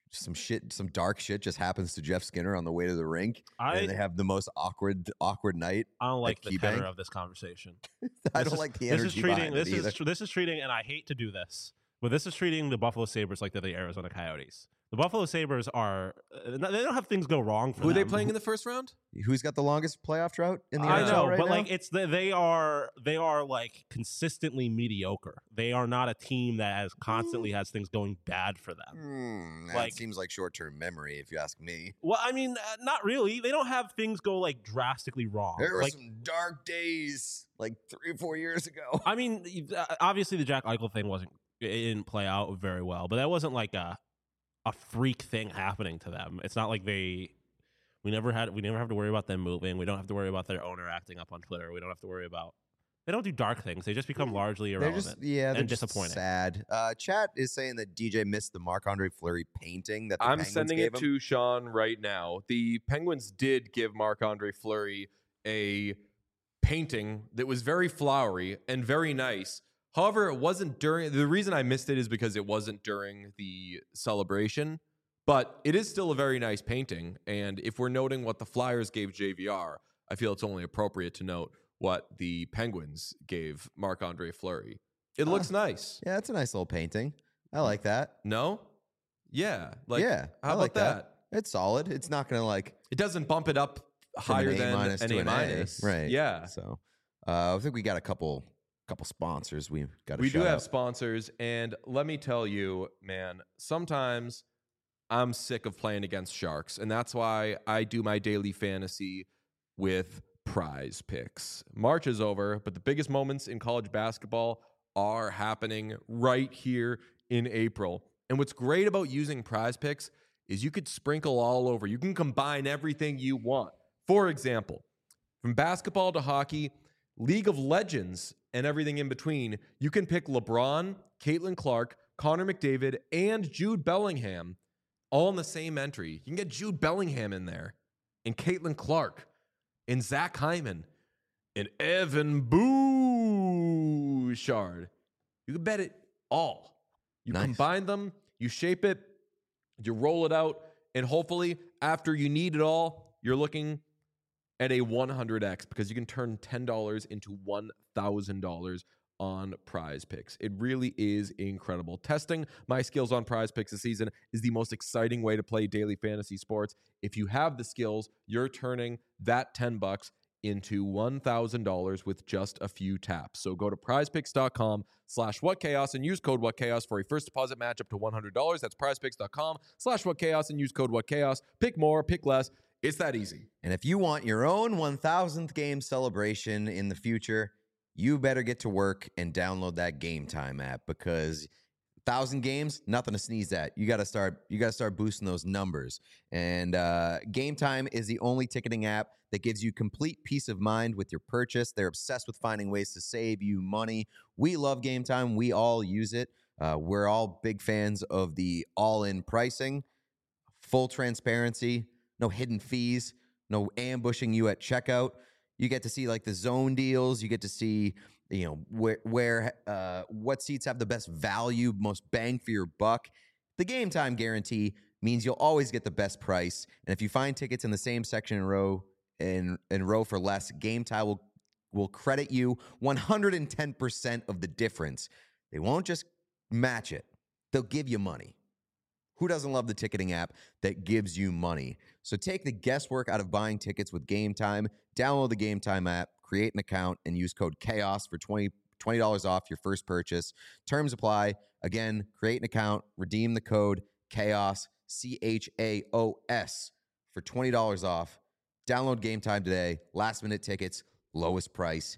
some shit, some dark shit just happens to Jeff Skinner on the way to the rink, I and they have the most awkward, awkward night. I don't like at the tenor KeyBank. of this conversation. I This don't is- like the This energy is treating behind this it either. is tr- this is treating, and I hate to do this, but this is treating the Buffalo Sabres like they're the Arizona Coyotes. The Buffalo Sabres are uh, they don't have things go wrong for Who are they them. playing in the first round? Who's got the longest playoff drought in the I N H know, L right but now? like it's the, they are they are like consistently mediocre. They are not a team that has constantly has things going bad for them. Hmm, that like- seems like short-term memory, if you ask me. Well, I mean, uh, not really. They don't have things go like drastically wrong. There were Like, some dark days, like three or four years ago. I mean, uh, obviously the Jack Eichel thing wasn't it didn't play out very well, but that wasn't like a a freak thing happening to them. It's not like they we never had we never have to worry about them moving. We don't have to worry about their owner acting up on Twitter. We don't have to worry about they don't do dark things. They just become largely They're irrelevant. just yeah, they're and just disappointing. sad. Uh, chat is saying that D J missed the Marc-Andre Fleury painting that the I'm Penguins sending gave it him. to Sean right now. The Penguins did give Marc-Andre Fleury a painting that was very flowery and very nice. However, it wasn't during the reason I missed it is because it wasn't during the celebration, but it is still a very nice painting. And if we're noting what the Flyers gave J V R, I feel it's only appropriate to note what the Penguins gave Marc-Andre Fleury. It looks nice. Yeah, that's a nice little painting. I like that. No? Yeah. Like, yeah, how I about like that? It's solid. It's not going to like It doesn't bump it up from higher an A than minus an to A an A, minus. right? Yeah. So uh, I think we got a couple couple sponsors. We got. We do have sponsors, and let me tell you, man, sometimes I'm sick of playing against sharks, and that's why I do my daily fantasy with Prize Picks. March is over, but the biggest moments in college basketball are happening right here in April. And what's great about using Prize Picks is you could sprinkle all over. You can combine everything you want. For example, from basketball to hockey, League of Legends, and everything in between, you can pick LeBron, Caitlin Clark, Connor McDavid, and Jude Bellingham all in the same entry. You can get Jude Bellingham in there, and Caitlin Clark, and Zach Hyman, and Evan Bouchard. You can bet it all. You Nice. combine them, you shape it, you roll it out, and hopefully after you need it all, you're looking at a one hundred x because you can turn ten dollars into one thousand dollars on Prize Picks. It really is incredible. Testing my skills on Prize Picks this season is the most exciting way to play daily fantasy sports. If you have the skills, you're turning that ten bucks into one thousand dollars with just a few taps. So go to prizepicks.com slash whatchaos and use code whatchaos for a first deposit match up to one hundred dollars. That's prizepicks.com slash whatchaos and use code whatchaos. Pick more, pick less. It's that easy. And if you want your own one thousandth game celebration in the future, you better get to work and download that Game Time app because thousand games, nothing to sneeze at. You got to start. You got to start boosting those numbers. And uh, Game Time is the only ticketing app that gives you complete peace of mind with your purchase. They're obsessed with finding ways to save you money. We love Game Time. We all use it. Uh, we're all big fans of the all-in pricing, full transparency, no hidden fees, no ambushing you at checkout. You get to see like the zone deals. You get to see, you know, where where uh, what seats have the best value, most bang for your buck. The Game Time guarantee means you'll always get the best price. And if you find tickets in the same section and row in in row for less, Game Time will will credit you one hundred ten percent of the difference. They won't just match it; they'll give you money. Who doesn't love the ticketing app that gives you money? So take the guesswork out of buying tickets with Game Time. Download the Game Time app, create an account, and use code CHAOS for twenty dollars off your first purchase. Terms apply. Again, create an account, redeem the code CHAOS, C H A O S, for twenty dollars off. Download Game Time today. Last minute tickets, lowest price,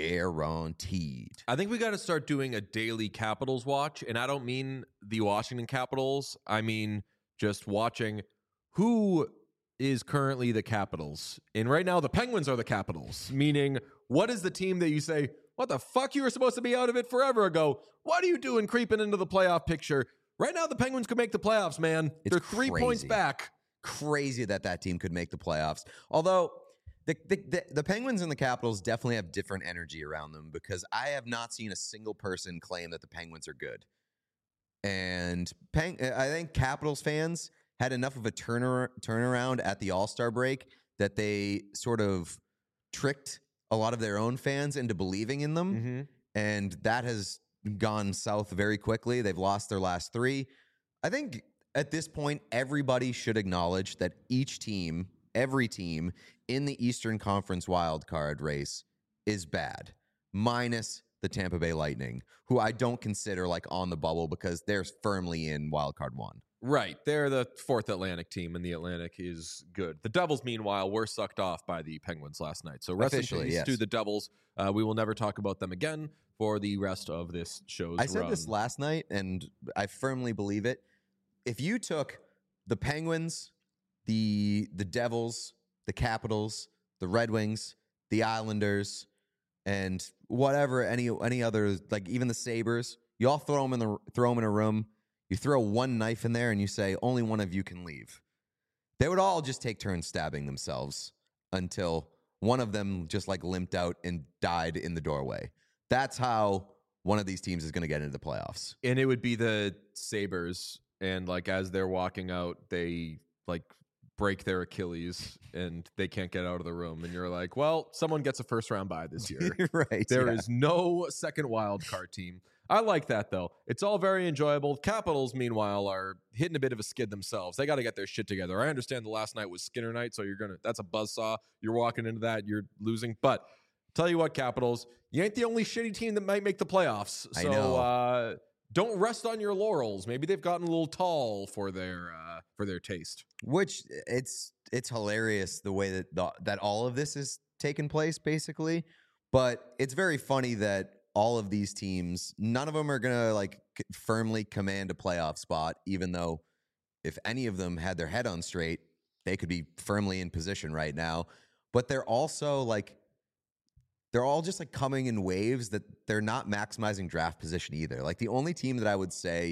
guaranteed. I think we got to start doing a daily Capitals watch. And I don't mean the Washington Capitals. I mean just watching who is currently the Capitals. And right now, the Penguins are the Capitals, meaning what is the team that you say, what the fuck, you were supposed to be out of it forever ago? What are you doing creeping into the playoff picture? Right now, the Penguins could make the playoffs, man. It's They're three points crazy. back. Crazy that that team could make the playoffs. Although the, the the the Penguins and the Capitals definitely have different energy around them because I have not seen a single person claim that the Penguins are good. And Peng- I think Capitals fans had enough of a turner- turnaround at the All-Star break that they sort of tricked a lot of their own fans into believing in them. Mm-hmm. And that has gone south very quickly. They've lost their last three. I think at this point, everybody should acknowledge that each team, every team in the Eastern Conference wildcard race is bad, minus the Tampa Bay Lightning, who I don't consider like on the bubble because they're firmly in wildcard one. Right. They're the fourth Atlantic team, and the Atlantic is good. The Devils, meanwhile, were sucked off by the Penguins last night. So rest in Officially, peace yes. to the Devils. Uh, we will never talk about them again for the rest of this show's I said run. this last night, and I firmly believe it. If you took the Penguins, the the Devils, the Capitals, the Red Wings, the Islanders, and whatever any any other, like even the Sabres, you all throw them in the throw them in a room. You throw one knife in there and you say, only one of you can leave. They would all just take turns stabbing themselves until one of them just like limped out and died in the doorway. That's how one of these teams is going to get into the playoffs. And it would be the Sabres. And like as they're walking out, they like break their Achilles and they can't get out of the room. And you're like, well, someone gets a first round bye this year. Right. There yeah. is no second wild card team. I like that, though. It's all very enjoyable. Capitals, meanwhile, are hitting a bit of a skid themselves. They got to get their shit together. I understand the last night was Skinner night, so you're going to, that's a buzzsaw. You're walking into that, you're losing. But tell you what, Capitals, you ain't the only shitty team that might make the playoffs. I So know. Uh, don't rest on your laurels. Maybe they've gotten a little tall for their uh, for their taste. Which it's it's hilarious the way that the, that all of this is taking place, basically. But it's very funny that all of these teams, none of them are gonna like c- firmly command a playoff spot. Even though, if any of them had their head on straight, they could be firmly in position right now. But they're also like, they're all just like coming in waves that they're not maximizing draft position either. Like the only team that I would say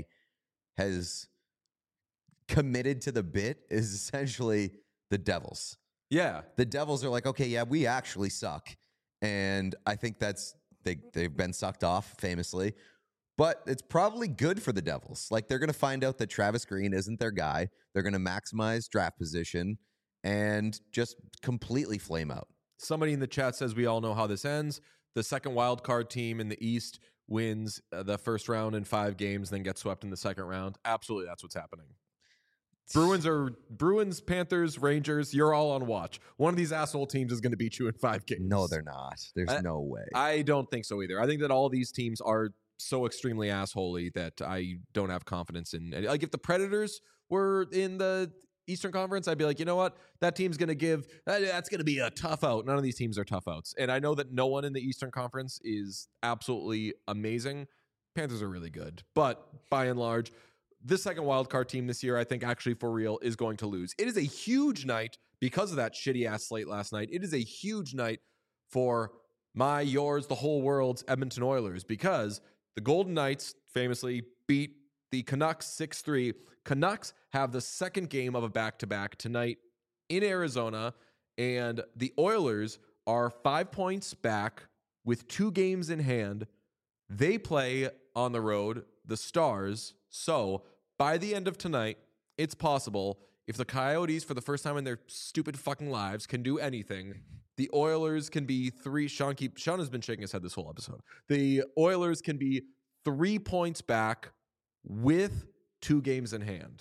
has committed to the bit is essentially the Devils. Yeah. The Devils are like, okay, yeah, we actually suck. And I think that's, they, they've been sucked off famously. But it's probably good for the Devils. Like they're going to find out that Travis Green isn't their guy. They're going to maximize draft position and just completely flame out. Somebody in the chat says we all know how this ends. The second wild card team in the East wins uh, the first round in five games, then gets swept in the second round. Absolutely, that's what's happening. Bruins are Bruins, Panthers, Rangers. You're all on watch. One of these asshole teams is going to beat you in five games. No, they're not. There's I- no way. I don't think so either. I think that all these teams are so extremely assholey that I don't have confidence in. Like if the Predators were in the Eastern Conference, I'd be like, you know what? That team's going to give, that's going to be a tough out. None of these teams are tough outs. And I know that no one in the Eastern Conference is absolutely amazing. Panthers are really good. But by and large, this second wildcard team this year, I think actually for real is going to lose. It is a huge night because of that shitty ass slate last night. It is a huge night for my, yours, the whole world's Edmonton Oilers because the Golden Knights famously beat the Canucks six three. Canucks have the second game of a back-to-back tonight in Arizona, and the Oilers are five points back with two games in hand. They play on the road, the Stars. So by the end of tonight, it's possible if the Coyotes, for the first time in their stupid fucking lives, can do anything, the Oilers can be three. Sean, keep, Sean has been shaking his head this whole episode. The Oilers can be three points back with two games in hand.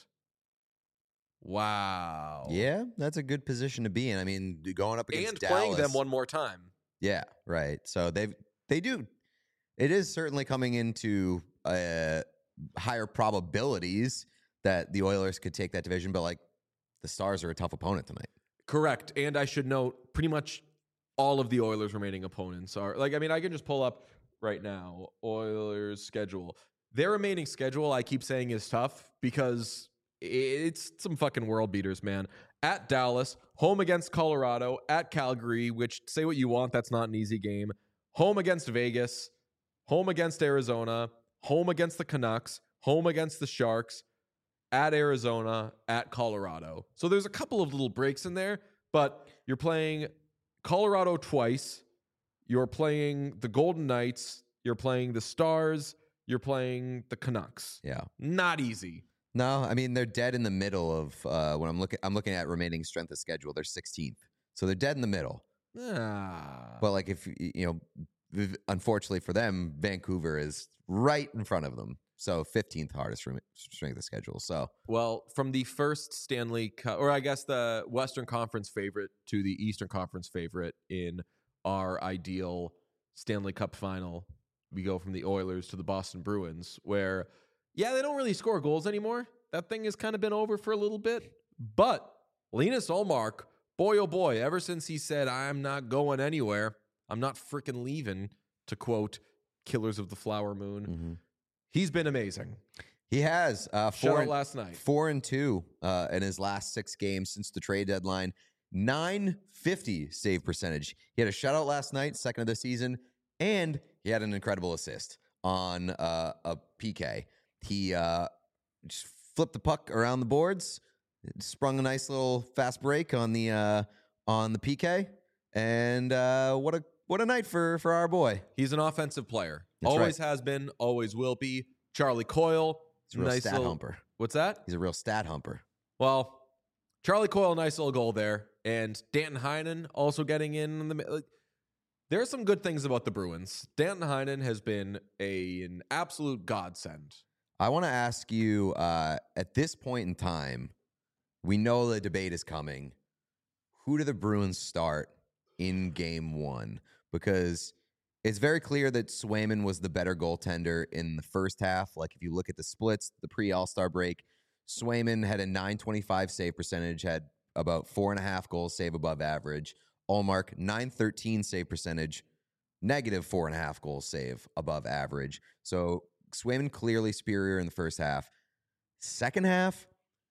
Wow. Yeah, that's a good position to be in. I mean, going up against And Dallas, playing them one more time. Yeah, right. So they've they do. It is certainly coming into uh, higher probabilities that the Oilers could take that division, but like the Stars are a tough opponent tonight. Correct. And I should note pretty much all of the Oilers' remaining opponents are like, I mean, I can just pull up right now Oilers' schedule. Their remaining schedule, I keep saying, is tough because it's some fucking world beaters, man. At Dallas, home against Colorado, at Calgary, which say what you want, that's not an easy game. Home against Vegas, home against Arizona, home against the Canucks, home against the Sharks, at Arizona, at Colorado. So there's a couple of little breaks in there, but you're playing Colorado twice. You're playing the Golden Knights. You're playing the Stars. you're playing the Canucks. Yeah. Not easy. No, I mean they're dead in the middle of uh, when I'm looking. I'm looking at remaining strength of schedule. They're sixteenth, so they're dead in the middle. Ah. But like if you know, v- unfortunately for them, Vancouver is right in front of them. So fifteenth hardest rem- strength of schedule. So Well, from the first Stanley Cup, or I guess the Western Conference favorite to the Eastern Conference favorite in our ideal Stanley Cup final, we go from the Oilers to the Boston Bruins, where, yeah, they don't really score goals anymore. That thing has kind of been over for a little bit. But Linus Ullmark, boy, oh boy, ever since he said, I'm not going anywhere, I'm not freaking leaving, to quote Killers of the Flower Moon, mm-hmm. he's been amazing. He has uh, four Shout out and, last night. four and two uh, in his last six games since the trade deadline. nine fifty save percentage. He had a shutout last night, second of the season, and he had an incredible assist on uh, a P K. He uh, just flipped the puck around the boards, sprung a nice little fast break on the uh, on the P K, and uh, what a what a night for for our boy. He's an offensive player. That's always right. has been, always will be. Charlie Coyle. He's a real nice stat little, humper. What's that? He's a real stat humper. Well, Charlie Coyle, nice little goal there. And Danton Heinen also getting in. in the, like, there are some good things about the Bruins. Danton Heinen has been a, an absolute godsend. I want to ask you, uh, at this point in time, we know the debate is coming. Who do the Bruins start in game one? Because it's very clear that Swayman was the better goaltender in the first half. Like if you look at the splits, the pre-All-Star break, Swayman had a nine twenty-five save percentage, had about four and a half goals save above average. Ullmark, nine thirteen save percentage, negative four and a half goals save above average. So Swayman clearly superior in the first half. Second half,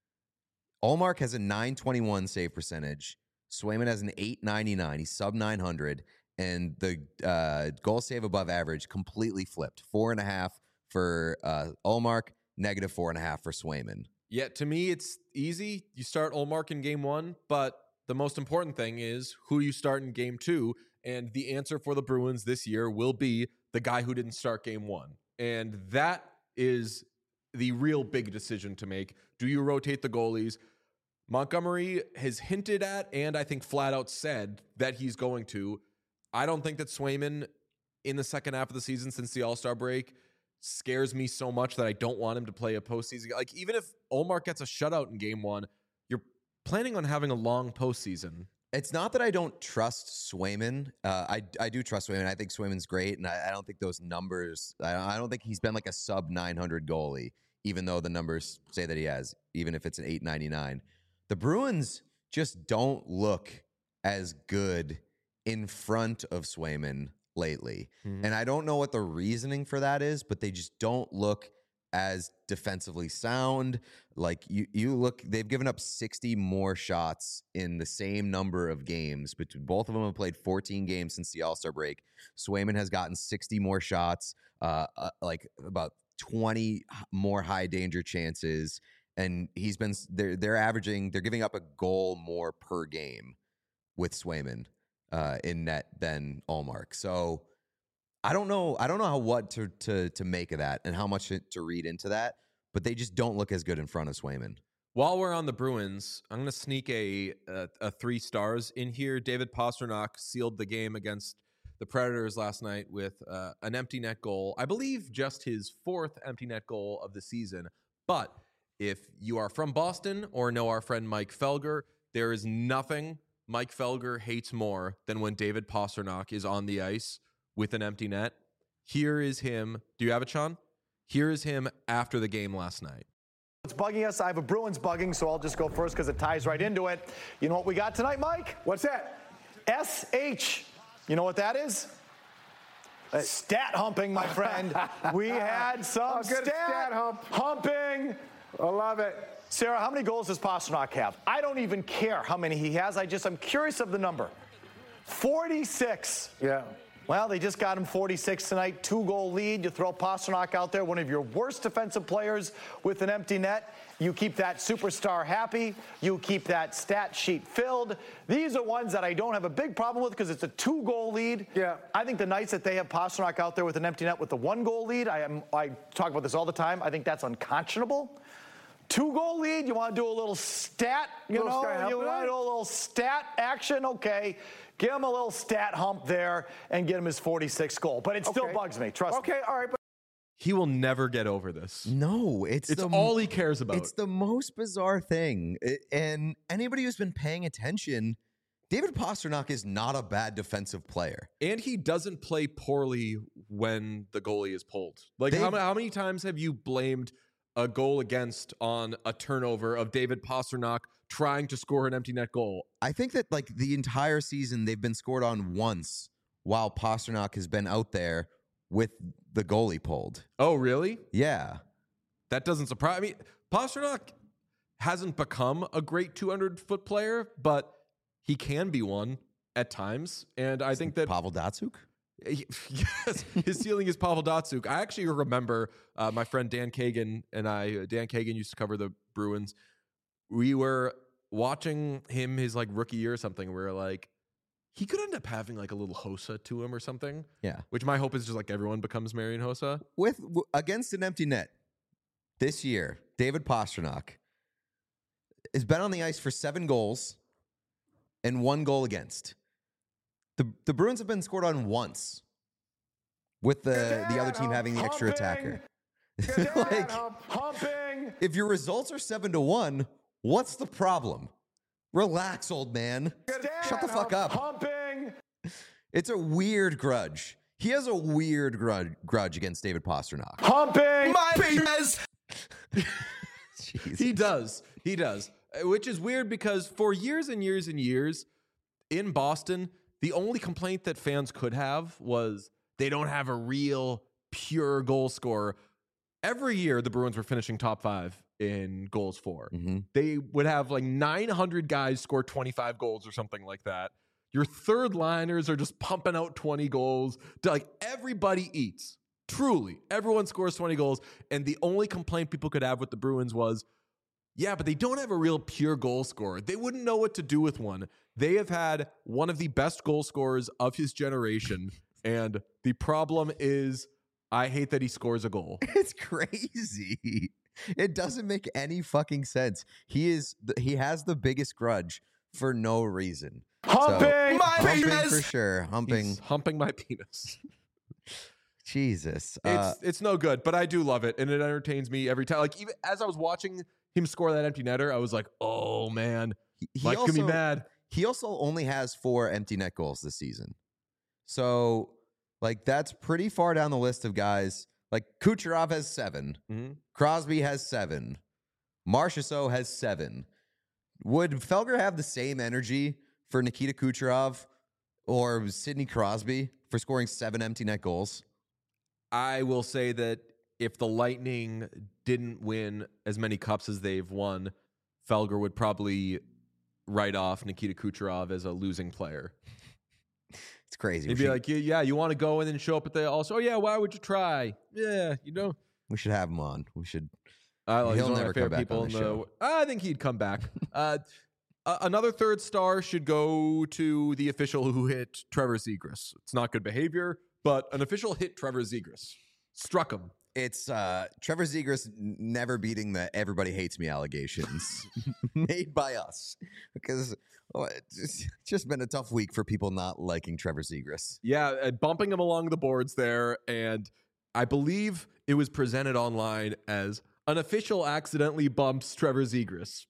Ullmark has a nine twenty-one save percentage. Swayman has an eight ninety-nine. He's sub nine hundred. And the uh, goal save above average completely flipped. Four and a half for uh, Ullmark, negative four and a half for Swayman. Yeah, to me, it's easy. You start Ullmark in game one, but the most important thing is who you start in game two. And the answer for the Bruins this year will be the guy who didn't start game one. And that is the real big decision to make. Do you rotate the goalies? Montgomery has hinted at, and I think flat out said that he's going to. I don't think that Swayman in the second half of the season since the All-Star break scares me so much that I don't want him to play a postseason. Like, even if Ullmark gets a shutout in game one, you're planning on having a long postseason. It's not that I don't trust Swayman. Uh, I, I do trust Swayman. I think Swayman's great, and I, I don't think those numbers, I, I don't think he's been like a sub nine hundred goalie, even though the numbers say that he has, even if it's an eight ninety-nine. The Bruins just don't look as good in front of Swayman lately. Mm-hmm. And I don't know what the reasoning for that is, but they just don't look as defensively sound. Like you, you look, they've given up sixty more shots in the same number of games. But both of them have played fourteen games since the All-Star break. Swayman has gotten sixty more shots, uh, uh, like about twenty more high danger chances. And he's been, they're, they're averaging, they're giving up a goal more per game with Swayman uh, in net than Ullmark. So I don't know. I don't know how what to to to make of that and how much to, to read into that. But they just don't look as good in front of Swayman. While we're on the Bruins, I'm going to sneak a, a a three stars in here. David Pastrnak sealed the game against the Predators last night with uh, an empty net goal. I believe just his fourth empty net goal of the season. But if you are from Boston or know our friend Mike Felger, there is nothing Mike Felger hates more than when David Pastrnak is on the ice with an empty net. Here is him. Do you have it, Sean? Here is him after the game last night. It's bugging us. I have a Bruins bugging, so I'll just go first because it ties right into it. You know what we got tonight, Mike? What's that? S H. You know what that is? Uh, stat humping, my friend. We had some Oh, good stat, stat hump. humping. I love it. Sarah, how many goals does Pastrnak have? I don't even care how many he has. I just, I'm curious of the number. forty-six. Yeah. Well, they just got him forty-six tonight, two-goal lead. You throw Pastrnak out there, one of your worst defensive players with an empty net. You keep that superstar happy. You keep that stat sheet filled. These are ones that I don't have a big problem with because it's a two-goal lead. Yeah. I think the nights that they have Pastrnak out there with an empty net with the one-goal lead, I am I talk about this all the time. I think that's unconscionable. Two-goal lead, you want to do a little stat, you Little know? stat You hump. want to do a little stat action? Okay. Give him a little stat hump there and get him his forty-sixth goal. But it still Okay. bugs me, trust me. Okay, all right, but He will never get over this. No, it's It's the, all he cares about. It's the most bizarre thing. I- and anybody who's been paying attention, David Pastrnak is not a bad defensive player. And he doesn't play poorly when the goalie is pulled. Like, They- how, ma- how many times have you blamed a goal against on a turnover of David Pastrnak trying to score an empty net goal? I think that like the entire season they've been scored on once while Pastrnak has been out there with the goalie pulled. Oh, really? Yeah. That doesn't surprise me. Pastrnak hasn't become a great two hundred foot player, but he can be one at times. And I think that Pavel Datsyuk? yes, his ceiling is Pavel Datsyuk. I actually remember uh, my friend Dan Kagan and I. Dan Kagan used to cover the Bruins. We were watching him his like rookie year or something. We were like, he could end up having like a little Hossa to him or something. Yeah. Which my hope is just like everyone becomes Marian Hossa. With w- against an empty net this year, David Pastrnak has been on the ice for seven goals and one goal against. The the Bruins have been scored on once with the, the other team having the extra attacker. Like, Humping. if your results are seven to one, what's the problem? Relax, old man. Shut the fuck up. Humping. It's a weird grudge. He has a weird grudge, grudge against David Pastrnak. Humping. My penis. Jeez. He does. He does. Uh, Which is weird because for years and years and years in Boston, the only complaint that fans could have was they don't have a real pure goal scorer. Every year, the Bruins were finishing top five in goals for. Mhm. They would have like nine hundred guys score twenty-five goals or something like that. Your third liners are just pumping out twenty goals. Like everybody eats. Truly, everyone scores twenty goals. And the only complaint people could have with the Bruins was, yeah, but they don't have a real pure goal scorer. They wouldn't know what to do with one. They have had one of the best goal scorers of his generation. And the problem is, I hate that he scores a goal. It's crazy. It doesn't make any fucking sense. He is th- he has the biggest grudge for no reason. Humping. My Humping penis. for sure. Humping. He's humping my penis. Jesus. It's Uh, it's no good, but I do love it, and it entertains me every time. Like even as I was watching him score that empty netter, I was like, "Oh man, he, he Mike's gonna be also- mad." He also only has four empty net goals this season. So, like, that's pretty far down the list of guys. Like, Kucherov has seven. Mhm. Crosby has seven. Marchessault has seven. Would Felger have the same energy for Nikita Kucherov or Sidney Crosby for scoring seven empty net goals? I will say that if the Lightning didn't win as many cups as they've won, Felger would probably write off Nikita Kucherov as a losing player. It's crazy. He'd We be should, like, yeah, yeah, you want to go and then show up at the also, oh, yeah, why would you try? Yeah, you know. we should have him on. We should. I like, He'll he's one of never my come favorite back people on in the the. show. I think he'd come back. uh, a- another third star should go to the official who hit Trevor Zegras. It's not good behavior, but an official hit Trevor Zegras. Struck him. It's uh, Trevor Zegras n- never beating the "everybody hates me" allegations made by us because oh, it's just, it's just been a tough week for people not liking Trevor Zegras. Yeah, uh, bumping him along the boards there, and I believe it was presented online as an official accidentally bumps Trevor Zegras.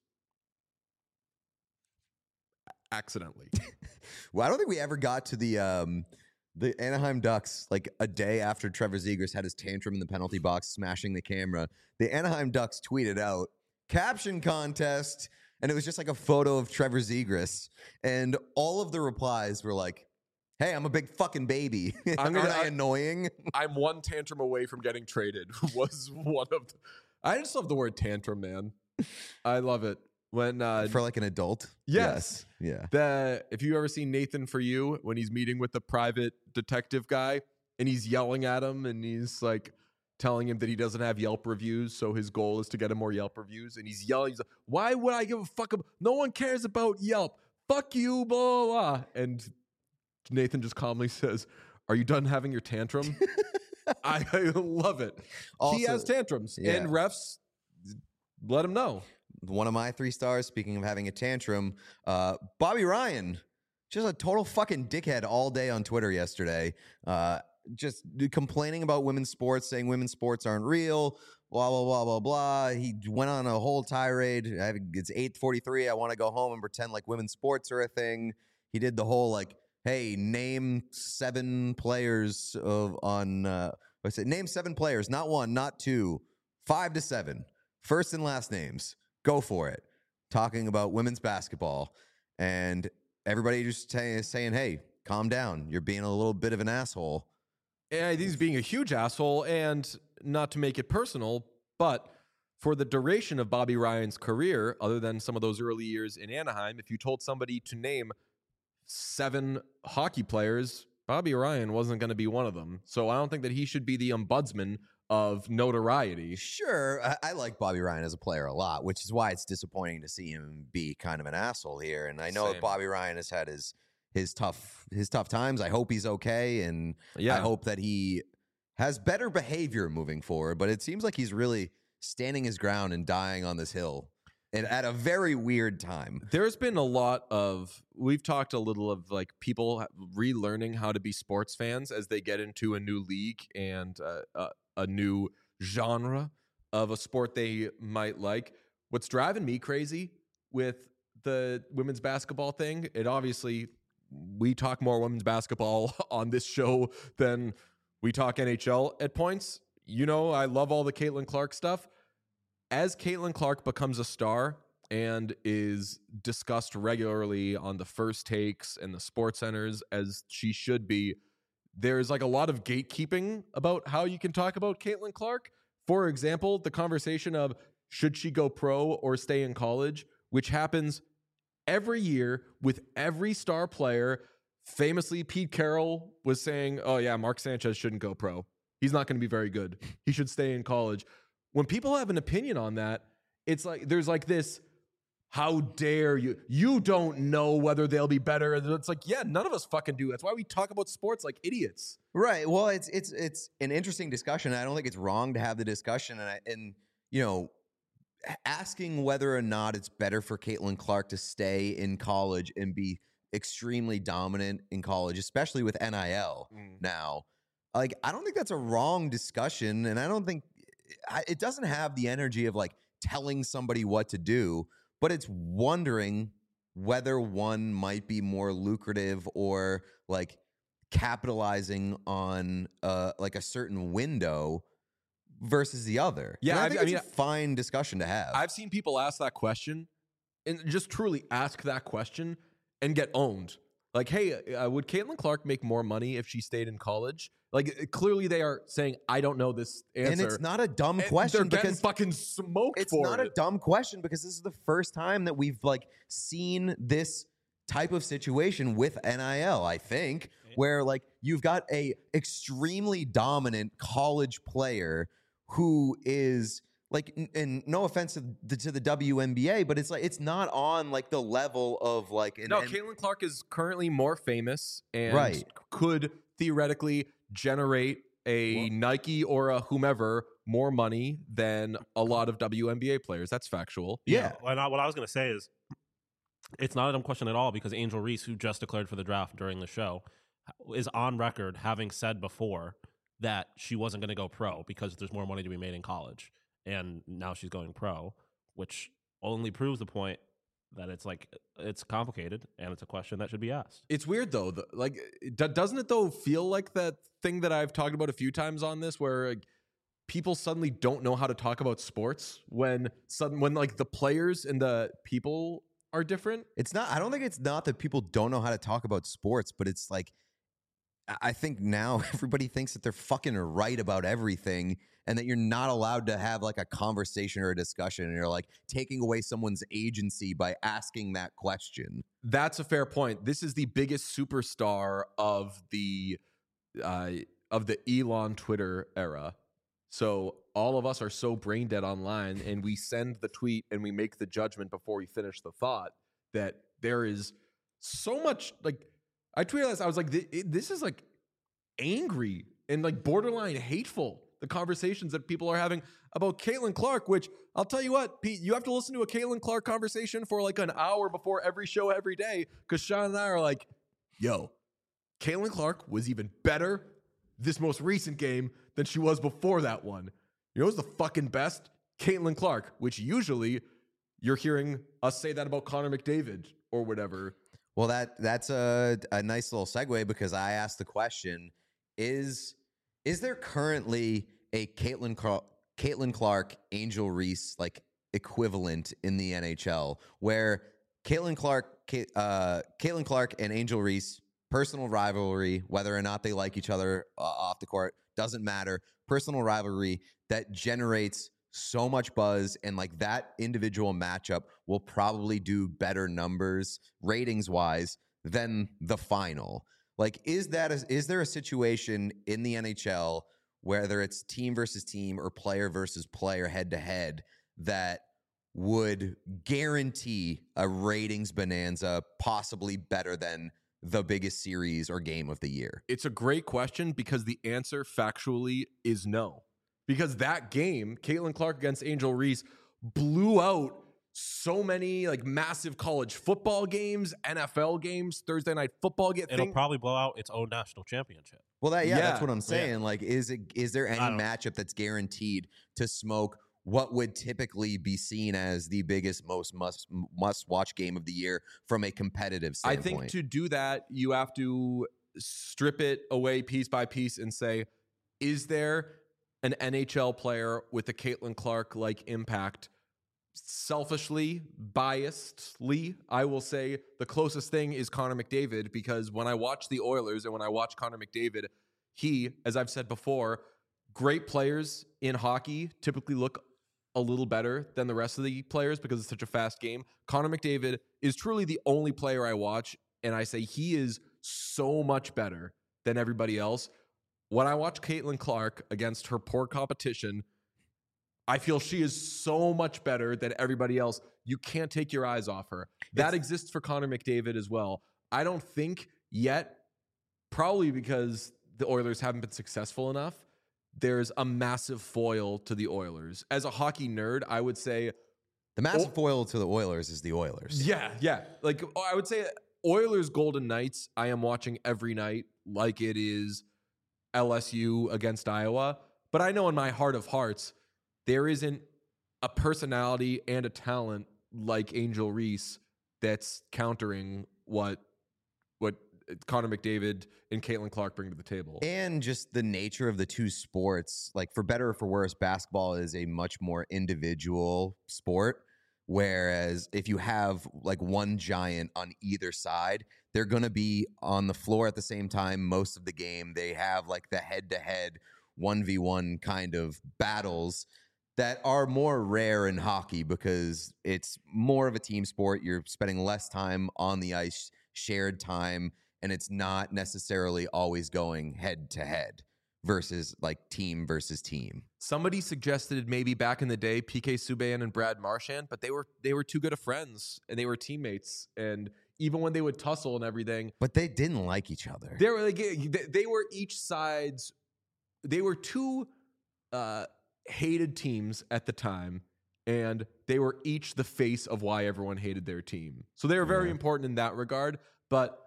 Accidentally. Well, I don't think we ever got to the um, the Anaheim Ducks like a day after Trevor Zegras had his tantrum in the penalty box, smashing the camera. The Anaheim Ducks tweeted out caption contest, and it was just like a photo of Trevor Zegras, and all of the replies were like, "Hey, I'm a big fucking baby. I'm gonna- Aren't I I- annoying?" I'm one tantrum away from getting traded was one of the, I just love the word tantrum, man. I love it. when uh, For like an adult? Yes. Yeah. the if you ever seen Nathan For You when he's meeting with the private detective guy and he's yelling at him and he's like telling him that he doesn't have Yelp reviews, so his goal is to get him more Yelp reviews, and he's yelling, he's like, why would I give a fuck about, no one cares about Yelp, fuck you, blah, blah, blah. And Nathan just calmly says, are you done having your tantrum? I, I love it. Also- he has tantrums, yeah. and refs let him know. One of my three stars, speaking of having a tantrum, uh, Bobby Ryan, just a total fucking dickhead all day on Twitter yesterday. Uh, just complaining about women's sports, saying women's sports aren't real, blah, blah, blah, blah, blah. He went on a whole tirade. I have, it's eight forty-three. I want to go home and pretend like women's sports are a thing. He did the whole, like, hey, name seven players of on, uh, what's it? Name seven players, not one, not two, five to seven. First and last names. Go for it. Talking about women's basketball. And everybody just say, saying, hey, calm down. You're being a little bit of an asshole. Yeah, he's being a huge asshole, and not to make it personal, but for the duration of Bobby Ryan's career, other than some of those early years in Anaheim, if you told somebody to name seven hockey players, Bobby Ryan wasn't going to be one of them. So I don't think that he should be the ombudsman of notoriety. Sure, I, I like Bobby Ryan as a player a lot, which is why it's disappointing to see him be kind of an asshole here. And I know Same. Bobby Ryan has had his his tough his tough times. I hope he's okay, and Yeah. I hope that he has better behavior moving forward. But it seems like he's really standing his ground and dying on this hill, and at a very weird time. There's been a lot of, we've talked a little of like people relearning how to be sports fans as they get into a new league and uh, uh, a new genre of a sport they might like. What's driving me crazy with the women's basketball thing, it obviously, we talk more women's basketball on this show than we talk N H L at points. You know, I love all the Caitlin Clark stuff. As Caitlin Clark becomes a star and is discussed regularly on the First Takes and the Sports Centers, as she should be, there's like a lot of gatekeeping about how you can talk about Caitlin Clark. For example, the conversation of should she go pro or stay in college, which happens every year with every star player. Famously, Pete Carroll was saying, oh yeah, Mark Sanchez shouldn't go pro. He's not going to be very good. He should stay in college. When people have an opinion on that, it's like there's like this, how dare you? You don't know whether they'll be better. It's like, yeah, none of us fucking do. That's why we talk about sports like idiots. Right. Well, it's it's it's an interesting discussion. I don't think it's wrong to have the discussion, and I, and you know, asking whether or not it's better for Caitlin Clark to stay in college and be extremely dominant in college, especially with N I L Mm. now. Like, I don't think that's a wrong discussion, and I don't think I, it doesn't have the energy of like telling somebody what to do, but it's wondering whether one might be more lucrative or like capitalizing on uh, like a certain window versus the other. Yeah, And I I- think I it's mean, a fine discussion to have. I've seen people ask that question and just truly ask that question and get owned. Like, hey, uh, would Caitlin Clark make more money if she stayed in college? Like, uh, clearly they are saying, I don't know this answer. and it's not a dumb And question they're getting because fucking smoked it's for not it. a dumb question because this is the first time that we've like seen this type of situation with N I L, I think, where like you've got a extremely dominant college player who is like, n- and no offense to the, to the W N B A, but it's like it's not on like the level of like an No, N- Caitlin Clark is currently more famous and Right. could theoretically generate a Nike or a whomever more money than a lot of W N B A players. That's factual. yeah. Well, I- what I was going to say is, it's not a dumb question at all because Angel Reese, who just declared for the draft during the show, is on record having said before that she wasn't going to go pro because there's more money to be made in college, and now she's going pro, which only proves the point that it's like it's complicated and it's a question that should be asked. It's weird though. The, like, d- doesn't it though feel like that thing that I've talked about a few times on this, where like, people suddenly don't know how to talk about sports when sudden when like the players and the people are different. It's not, I don't think it's not that people don't know how to talk about sports, but it's like, I think now everybody thinks that they're fucking right about everything and that you're not allowed to have like a conversation or a discussion. And you're like taking away someone's agency by asking that question. That's a fair point. This is the biggest superstar of the uh, of the Elon Twitter era. So all of us are so brain dead online, and we send the tweet and we make the judgment before we finish the thought that there is so much like. I tweeted this. I was like, this is like angry and like borderline hateful. The conversations that people are having about Caitlin Clark, which I'll tell you what, Pete, you have to listen to a Caitlin Clark conversation for like an hour before every show every day. Because Sean and I are like, yo, Caitlin Clark was even better this most recent game than she was before that one. You know who's the fucking best? Caitlin Clark, which usually you're hearing us say that about Connor McDavid or whatever. Well, that that's a, a nice little segue because I asked the question, is is there currently a Caitlin Clark, Caitlin Clark, Angel Reese like equivalent in the N H L where Caitlin Clark, uh, Caitlin Clark and Angel Reese, personal rivalry, whether or not they like each other uh, off the court, doesn't matter. Personal rivalry that generates so much buzz, and like that individual matchup will probably do better numbers ratings wise than the final. Like, is that a, is there a situation in the N H L, whether it's team versus team or player versus player head to head, that would guarantee a ratings bonanza possibly better than the biggest series or game of the year? It's a great question because the answer factually is no. Because that game, Caitlin Clark against Angel Reese, blew out so many like massive college football games, N F L games, Thursday night football. Get It'll thing. probably blow out its own national championship. Well, that yeah, Yeah. that's what I'm saying. Yeah. Like, is it is there any matchup that's guaranteed to smoke what would typically be seen as the biggest, most must must watch game of the year from a competitive I standpoint? think to do that, you have to strip it away piece by piece and say, is there an N H L player with a Caitlin Clark like impact? Selfishly, biasedly, I will say the closest thing is Connor McDavid, because when I watch the Oilers and when I watch Connor McDavid, he, as I've said before, great players in hockey typically look a little better than the rest of the players because it's such a fast game. Connor McDavid is truly the only player I watch, and I say he is so much better than everybody else. When I watch Caitlin Clark against her poor competition, I feel she is so much better than everybody else. You can't take your eyes off her. That It's- exists for Connor McDavid as well. I don't think yet, probably because the Oilers haven't been successful enough, there's a massive foil to the Oilers. As a hockey nerd, I would say, the massive foil to the Oilers is the Oilers. yeah, yeah. Like I would say Oilers Golden Knights, I am watching every night like it is L S U against Iowa. But I know in my heart of hearts, there isn't a personality and a talent like Angel Reese that's countering what what Connor McDavid and Caitlin Clark bring to the table. And just the nature of the two sports, like for better or for worse, basketball is a much more individual sport. Whereas if you have like one giant on either side, they're going to be on the floor at the same time most of the game. They have like the head-to-head one v one kind of battles that are more rare in hockey because it's more of a team sport. You're spending less time on the ice, shared time, and it's not necessarily always going head to head versus like team versus team. Somebody suggested maybe back in the day P K Subban and Brad Marchand, but they were they were too good of friends and they were teammates, and even when they would tussle and everything, But they didn't like each other. they were like they, they were each side's they were two uh hated teams at the time, and they were each the face of why everyone hated their team. So they were very Yeah. important in that regard. But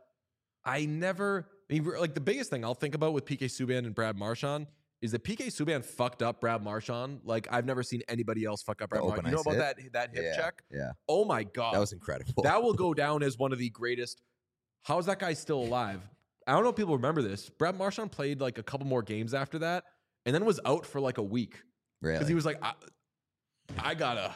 I never, I mean, like the biggest thing I'll think about with P K Subban and Brad Marchand is that P K Subban fucked up Brad Marchand like I've never seen anybody else fuck up Brad The Marchand. open You know ice about hit? that that hip yeah, check? Yeah. Oh my god, That was incredible. that will go down as one of the greatest. How is that guy still alive? I don't know if people remember this. Brad Marchand played like a couple more games after that, and then was out for like a week. really. Because he was like, I, I gotta.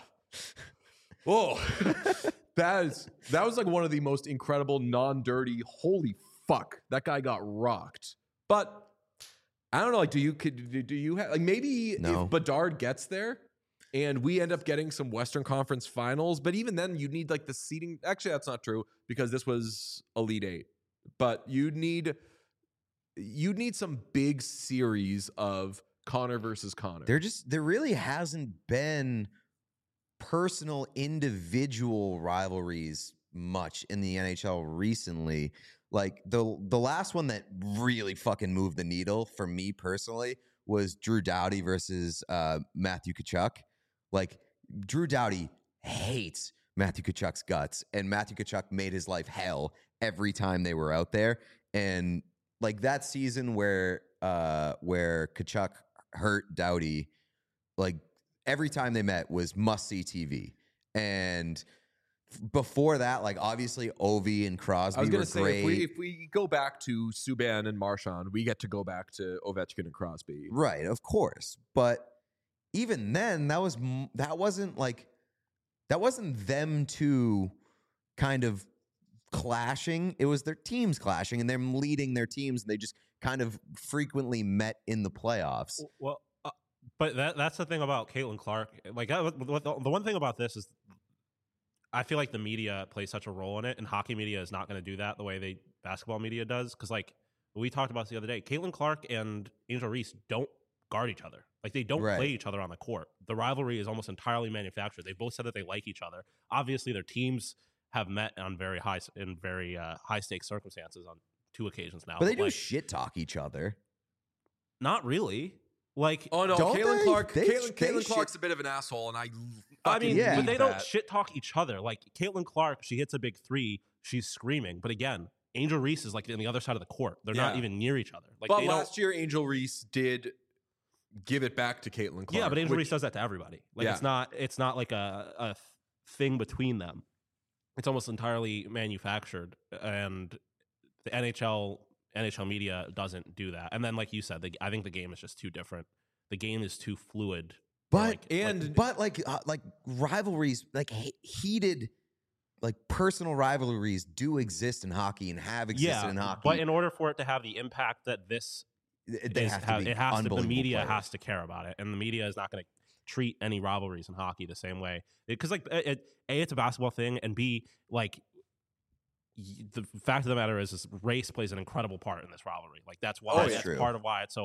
Whoa, that is that was like one of the most incredible, non-dirty. Holy fuck, that guy got rocked But I don't know. Like, do you could do you have like maybe No. if Bedard gets there and we end up getting some Western Conference Finals, but even then you need like the seeding. Actually, that's not true because this was Elite Eight. But you need you need some big series of Connor versus Connor. There just there really hasn't been personal individual rivalries much in the N H L recently. Like the the last one that really fucking moved the needle for me personally was Drew Doughty versus uh, Matthew Tkachuk. Like Drew Doughty hates Matthew Tkachuk's guts, and Matthew Tkachuk made his life hell every time they were out there. And like that season where uh, where Tkachuk hurt Doughty, like every time they met was must see T V. And before that, like obviously Ovi and Crosby I was were going to say, great. if we, if we go back to Subban and Marchand, we get to go back to Ovechkin and Crosby. Right, of course. But even then, that was m- that wasn't like that wasn't them two kind of clashing. It was their teams clashing and them leading their teams. And they just kind of frequently met in the playoffs. Well, uh, but that that's the thing about Caitlin Clark. Like that, the, the one thing about this is, I feel like the media plays such a role in it, and hockey media is not going to do that the way they basketball media does. Because like we talked about the other day, Caitlin Clark and Angel Reese don't guard each other. Like they don't Right. play each other on the court. The rivalry is almost entirely manufactured. They both said that they like each other. Obviously, their teams have met on very high in very uh, high stakes circumstances on two occasions now. But they do like, shit talk each other. not really. Like Oh no, Don't Caitlin they? Clark. They- Caitlin, they Caitlin shit- Clark's a bit of an asshole, and I. I fucking mean, Yeah. but hate they don't that. shit talk each other. Like Caitlin Clark, she hits a big three, she's screaming. But again, Angel Reese is like on the other side of the court. They're not Yeah. even near each other. Like But they last don't, year, Angel Reese did give it back to Caitlin Clark. yeah, but Angel which- Reese does that to everybody. Like Yeah. it's not, it's not like a, a thing between them. It's almost entirely manufactured, and the N H L N H L media doesn't do that. And then, like you said, the, I think the game is just too different. The game is too fluid. But Like- and- like, but like uh, like rivalries, like he- heated, like personal rivalries do exist in hockey and have existed yeah, in hockey. but in order for it to have the impact that this Th- they is have ha- to be it has to, the unbelievable media players. has to care about it, and the media is not going to treat any rivalries in hockey the same way, because like it, it- a it's a basketball thing, and b like y- the fact of the matter is, is race plays an incredible part in this rivalry. Like that's why Oh, that's yeah. True. part of why it's so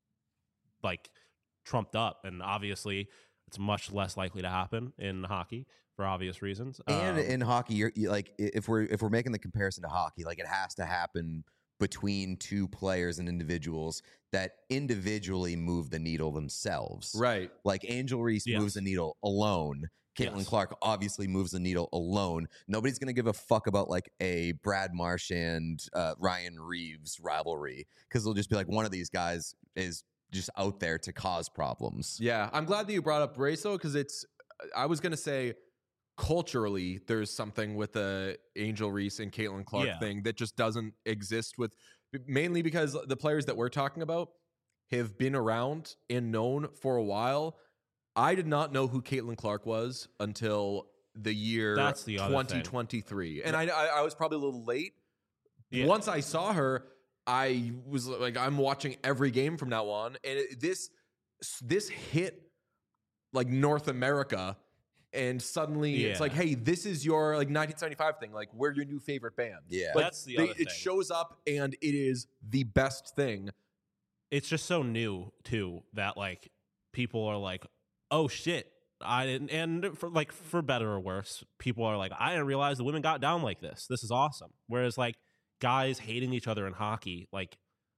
like trumped up, and obviously it's much less likely to happen in hockey for obvious reasons. And Um, in hockey, you're you, like i- if we're if we're making the comparison to hockey, like it has to happen between two players and individuals that individually move the needle themselves. right. Like Angel Reese Yes. moves the needle alone. Caitlin Yes. Clark obviously moves the needle alone. Nobody's going to give a fuck about like a Brad Marsh and uh, Ryan Reeves rivalry because they'll just be like, one of these guys is just out there to cause problems. Yeah, I'm glad that you brought up race though, because it's. I was gonna say, culturally, there's something with the Angel Reese and Caitlin Clark Yeah. thing that just doesn't exist with, mainly because the players that we're talking about have been around and known for a while. I did not know who Caitlin Clark was until the year That's the other thing. twenty twenty-three, and I, I I was probably a little late. Yeah. Once I saw her, I was like, I'm watching every game from now on, and it, this this hit like North America, and suddenly it's Yeah. like, hey, this is your like nineteen seventy-five thing. Like, we're your new favorite band. Yeah. Like, That's the they- other it thing. shows up, and it is the best thing. it's just so new too that like people are like, oh shit, I didn't, and for like for better or worse, people are like, I didn't realize the women got down like this. This is awesome. Whereas like guys hating each other in hockey, like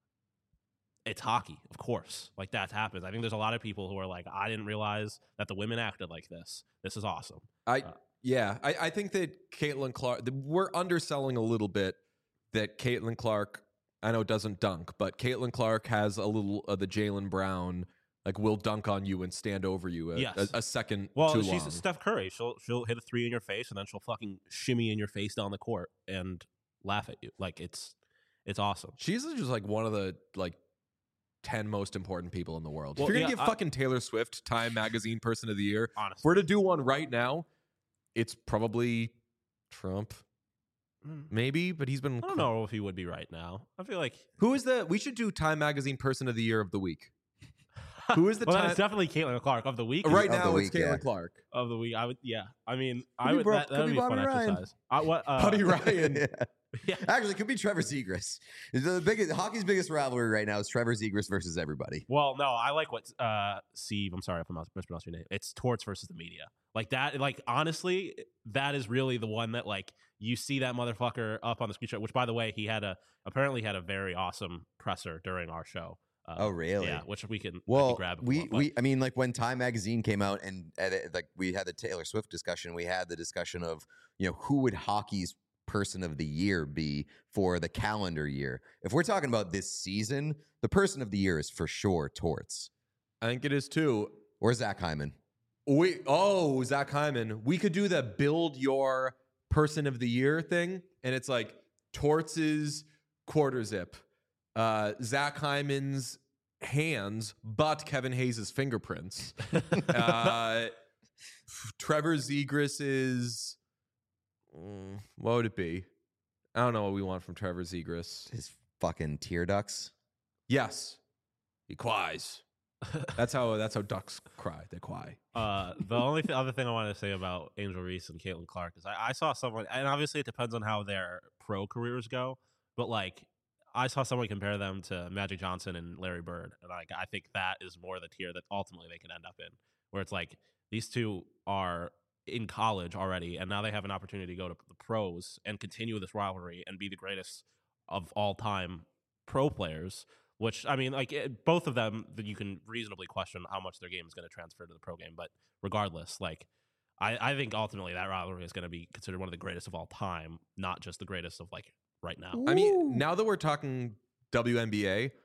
it's hockey, of course. Like that happens. I think there's a lot of people who are like, I didn't realize that the women acted like this. This is awesome. I Uh, yeah, I, I think that Caitlin Clark, the, we're underselling a little bit that Caitlin Clark, I know doesn't dunk, but Caitlin Clark has a little of the Jaylen Brown, like will dunk on you and stand over you a, Yes. a, a second Well, too she's long. Steph Curry. She'll she'll hit a three in your face and then she'll fucking shimmy in your face down the court and laugh at you. Like it's it's awesome. She's just like one of the like ten most important people in the world. Well, if you're gonna yeah, give I- fucking Taylor Swift Time Magazine Person of the Year, if Honestly. we're to do one right now, it's probably Trump. maybe, but he's been. I don't know if he would be right now. I feel like Who is the? We should do Time Magazine Person of the Year of the Week. Who is the well, time? it's definitely Caitlin Clark of the week. Right Of now, the it's week, Caitlin yeah. Clark. Of the week, I would. Yeah, I mean, Could I be would. Bro- That could would be be fun Bobby Ryan. exercise. I, what, uh, Buddy Ryan. Yeah. Yeah. Actually, it could be Trevor Zegras. The biggest hockey's biggest rivalry right now is Trevor Zegras versus everybody. Well, no, I like what uh Steve. I'm sorry if I'm mispronouncing your name. It's Torts versus the media. Like that. Like honestly, that is really the one that like you see that motherfucker up on the screenshot. Which, by the way, he had a apparently had a very awesome presser during our show. Uh, Oh, really? Yeah, which we can, I Well, can grab. if we want, but- we I mean, like when Time Magazine came out and at it, like we had the Taylor Swift discussion, we had the discussion of you know who would hockey's person of the year be for the calendar year. If we're talking about this season, the person of the year is for sure Torts I think it is too. or Zach Hyman. We oh Zach Hyman. We could do the build your person of the year thing, and it's like Torts's quarter zip, uh, Zach Hyman's hands, but Kevin Hayes' fingerprints. uh, Trevor Zegras's mm, what would it be? I don't know what we want from Trevor Zegras. His fucking tear ducts. Yes, he quies. That's how that's how ducks cry. They cry. Uh, the only th- other thing I wanted to say about Angel Reese and Caitlin Clark is I, I saw someone, and obviously it depends on how their pro careers go, but like I saw someone compare them to Magic Johnson and Larry Bird, and like I think that is more the tier that ultimately they can end up in, where it's like these two are in college already, and now they have an opportunity to go to the pros and continue this rivalry and be the greatest of all time pro players. Which, I mean, like, it, both of them, that you can reasonably question how much their game is going to transfer to the pro game. But regardless, like, I, I think ultimately that rivalry is going to be considered one of the greatest of all time, not just the greatest of, like, right now. I mean, now that we're talking W N B A,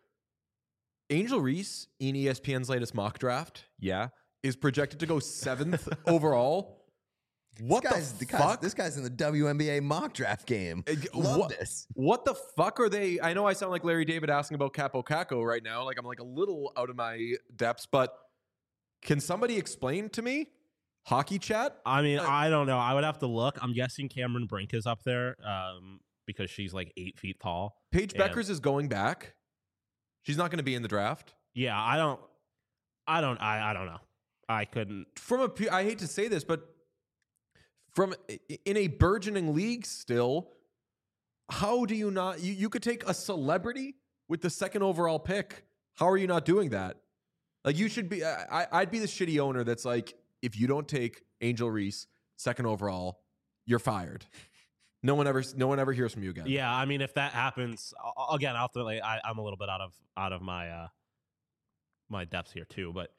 Angel Reese in E S P N's latest mock draft, yeah, is projected to go seventh overall. What this guy's, the guy's- fuck? This guy's in the W N B A mock draft game. Uh, Love what- this. What the fuck are they? I know I sound like Larry David asking about Capo Caco right now. Like I'm like a little out of my depths, but can somebody explain to me? Hockey chat? I mean, Uh, I don't know. I would have to look. I'm guessing Cameron Brink is up there um, because she's like eight feet tall. Paige And- Beckers is going back. She's not going to be in the draft. Yeah, I don't, I don't, I, I don't know. I couldn't. From a, pu- I hate to say this, but from in a burgeoning league still, how do you not? You, you could take a celebrity with the second overall pick. How are you not doing that? Like you should be. I, I'd be the shitty owner that's like, if you don't take Angel Reese second overall, you're fired. No one ever, no one ever hears from you again. Yeah, I mean, if that happens uh, again, ultimately, I, I'm a little bit out of out of my uh, my depths here too. But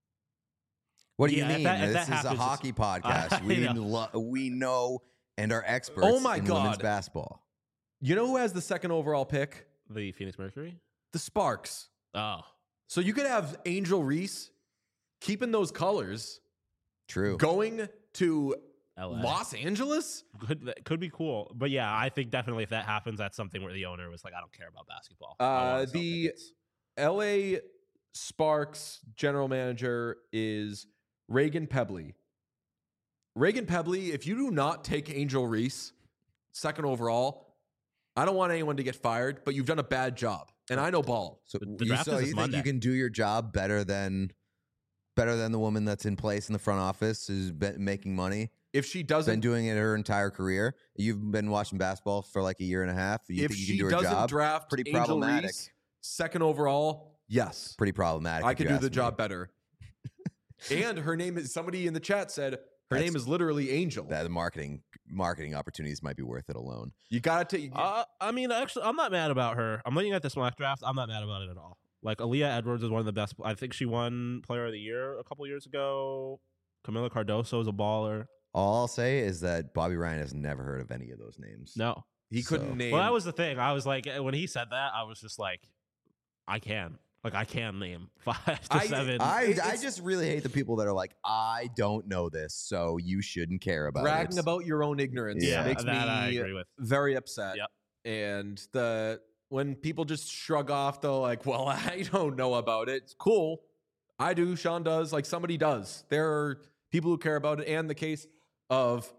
What do Yeah, you if mean? that- if this that is a happens, hockey it's- podcast. I we know. lo- we know and are experts Oh my in women's God. basketball. You know who has the second overall pick? the Phoenix Mercury. The Sparks. Oh, So you could have Angel Reese keeping those colors, True. going to L A. Los Angeles. Could that could be cool, but yeah, I think definitely if that happens, that's something where the owner was like, I don't care about basketball. I Uh, wanna sell the- tickets. L A Sparks general manager is Reagan Pebley. Reagan Pebley, if you do not take Angel Reese second overall, I don't want anyone to get fired, but you've done a bad job. And I know ball. So The- the you, draft so is you this think Monday. you can do your job better than better than the woman that's in place in the front office who's been making money, If she been doesn't doing it her entire career. You've been watching basketball for like a year and a half. You if think you she can do her doesn't job? draft Pretty Angel problematic. Reese second overall, yes. Pretty problematic. I if could you do the ask me. job better. And her name is somebody in the chat said her That's- name is literally Angel. That the marketing marketing opportunities might be worth it alone. You gotta take Uh, I mean, actually, I'm not mad about her. I'm looking at this mock draft. I'm not mad about it at all. Like Aaliyah Edwards is one of the best. I think she won Player of the Year a couple years ago. Camila Cardoso is a baller. All I'll say is that Bobby Ryan has never heard of any of those names. No, he couldn't So- name well, that was the thing. I was like, when he said that, I was just like, I can, like, I can name five to I- seven. I, It- I it's- just really hate the people that are like, I don't know this, so you shouldn't care about bragging it. about your own ignorance Yeah. makes that I me agree with. very upset. Yep. And the when people just shrug off the like, well, I don't know about it. It's cool. I do. Sean does. Like somebody does. There are people who care about it. And the case of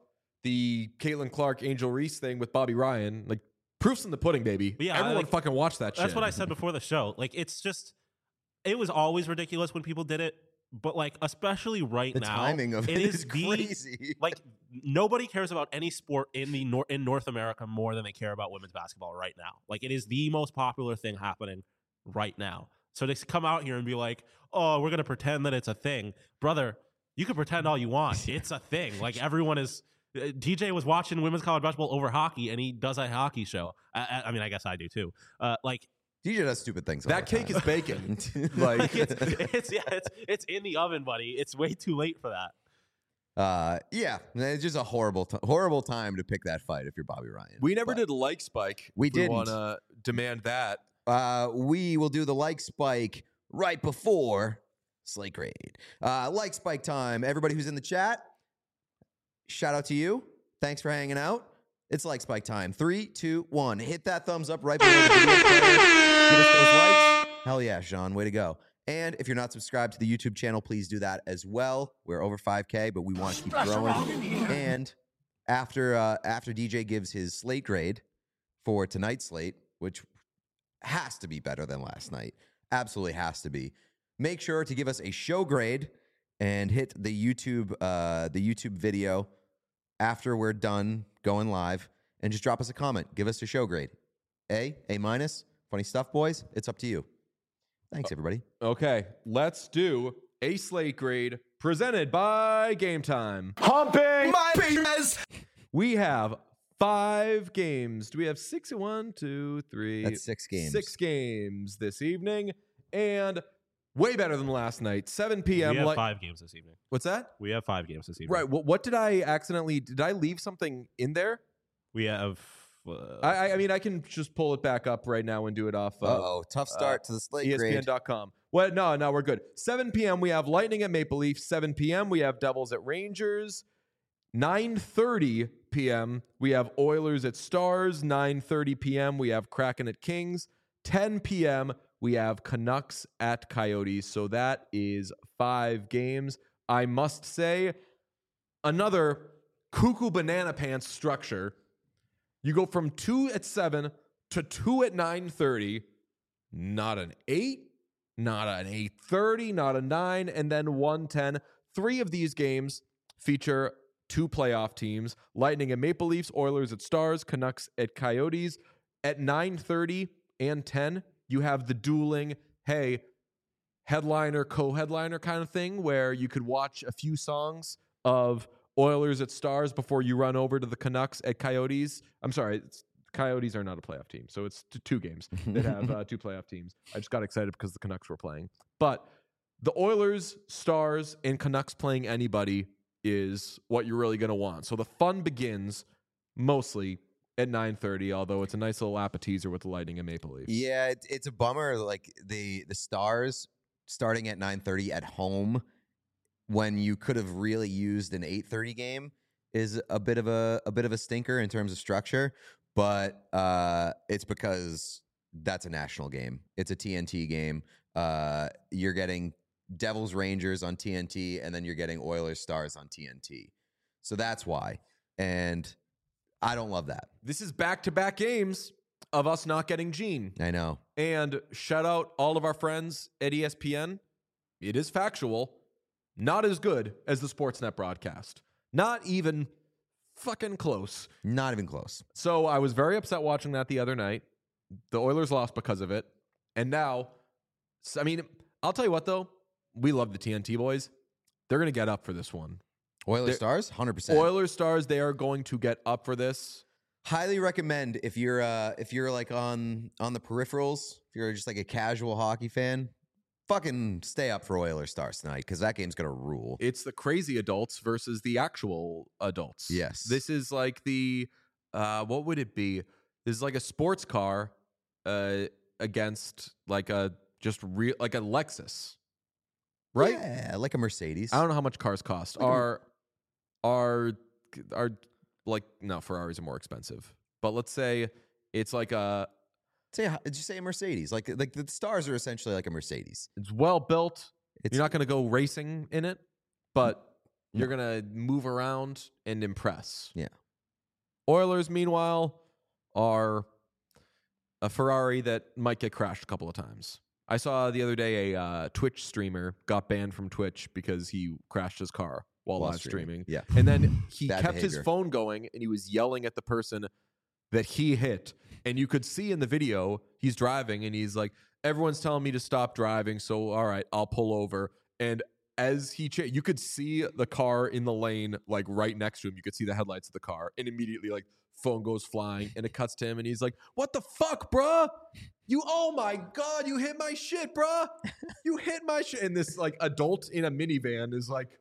the Caitlin Clark, Angel Reese thing with Bobby Ryan, like proofs in the pudding, baby. Yeah, Everyone like, fucking watch that shit. That's what I said before the show. Like, it's just, it was always ridiculous when people did it, but like, especially right The now, timing of it it is is the, crazy. Like, nobody cares about any sport in the nor- in North America more than they care about women's basketball right now. Like, it is the most popular thing happening right now. So to come out here and be like, "Oh, we're gonna pretend that it's a thing," brother, you can pretend all you want. It's a thing. Like, everyone is. D J was watching women's college basketball over hockey, and he does a hockey show. I, I, I mean, I guess I do too. Uh, like D J does stupid things. all that the cake time. is bacon. like like it's, it's yeah, it's it's in the oven, buddy. It's way too late for that. Uh, yeah, it's just a horrible, t- horrible time to pick that fight if you're Bobby Ryan. we never But, did a like spike. We if didn't. want to demand that. Uh, we will do the like spike right before Slate Grade. Uh, like spike time. Everybody who's in the chat, shout out to you. Thanks for hanging out. It's like spike time. Three, two, one. Hit that thumbs up right below the video player. Get us those likes. Hell yeah, Sean. Way to go. And if you're not subscribed to the YouTube channel, please do that as well. We're over five K, but we want to keep growing. And after uh, after D J gives his slate grade for tonight's slate, which has to be better than last night, absolutely has to be, make sure to give us a show grade and hit the YouTube uh, the YouTube video after we're done going live, and just drop us a comment. Give us a show grade. A, A minus, funny stuff, boys. It's up to you. Thanks, everybody. Okay, let's do a slate grade presented by Game Time. Humping My penis. We have five games. Do we have six? One, two, three. That's six games. Six games this evening, and way better than last night. seven p.m. We have like- five games this evening. What's that? We have five games this evening. Right. What, what did I accidentally? Did I leave something in there? We have. Uh, I, I- I mean, I can just pull it back up right now and do it off. Uh, Uh-oh, tough start to the slate E S P N grade. dot com. Well, no, no, we're good. seven p.m. we have Lightning at Maple Leaf. seven p.m. we have Devils at Rangers. nine thirty p.m. we have Oilers at Stars. nine thirty p.m. we have Kraken at Kings. ten p.m. we have Canucks at Coyotes. So that is five games. I must say, another cuckoo banana pants structure. You go from two at seven to two at nine thirty. Not an eight, not an eight thirty, not a nine, and then one ten. Three of these games feature two playoff teams: Lightning at Maple Leafs, Oilers at Stars, Canucks at Coyotes. At nine thirty and ten, you have the dueling, hey, headliner, co-headliner kind of thing, where you could watch a few songs of Oilers at Stars before you run over to the Canucks at Coyotes. I'm sorry, it's, Coyotes are not a playoff team, so it's t- two games that have uh, two playoff teams. I just got excited because the Canucks were playing. But the Oilers, Stars, and Canucks playing anybody is what you're really going to want. So the fun begins mostly at nine thirty, although it's a nice little appetizer with the Lightning and Maple Leafs. Yeah, it, it's a bummer. Like the the Stars starting at nine thirty at home when you could have really used an eight thirty game is a bit of a a bit of a stinker in terms of structure. But uh, it's because that's a national game. It's a T N T game. Uh, you're getting Devils Rangers on T N T, and then you're getting Oilers Stars on T N T. So that's why. And I don't love that. This is back-to-back games of us not getting Gene. I know. And shout out all of our friends at E S P N. It is factual. Not as good as the Sportsnet broadcast. Not even fucking close. Not even close. So I was very upset watching that the other night. The Oilers lost because of it. And now, I mean, I'll tell you what, though. We love the T N T boys. They're going to get up for this one. Oilers They're- Stars, one hundred percent. Oilers Stars, they are going to get up for this. Highly recommend if you're uh if you're like on on the peripherals, if you're just like a casual hockey fan, fucking stay up for Oilers Stars tonight because that game's gonna rule. It's the crazy adults versus the actual adults. Yes. This is like the, uh, what would it be? This is like a sports car uh, against like a just real, like a Lexus. Right? Yeah, like a Mercedes. I don't know how much cars cost. Like a- Are, are, are like, no, Ferraris are more expensive. But let's say it's like a, Say, did you say a Mercedes? Like like the Stars are essentially like a Mercedes. it's well built. It's You're not going to go racing in it, but You're going to move around and impress. Yeah. Oilers, meanwhile, are a Ferrari that might get crashed a couple of times. I saw the other day a uh, Twitch streamer got banned from Twitch because he crashed his car while, While live streaming. streaming. Yeah. And then he Bad kept his behavior. phone going and he was yelling at the person that he hit. And you could see in the video, he's driving and he's like, everyone's telling me to stop driving. So, all right, I'll pull over. And as he, cha- you could see the car in the lane, like right next to him. You could see the headlights of the car. And immediately, like, phone goes flying and it cuts to him. And he's like, what the fuck, bruh? You, oh my God, you hit my shit, bruh. You hit my shit. And this, like, adult in a minivan is like,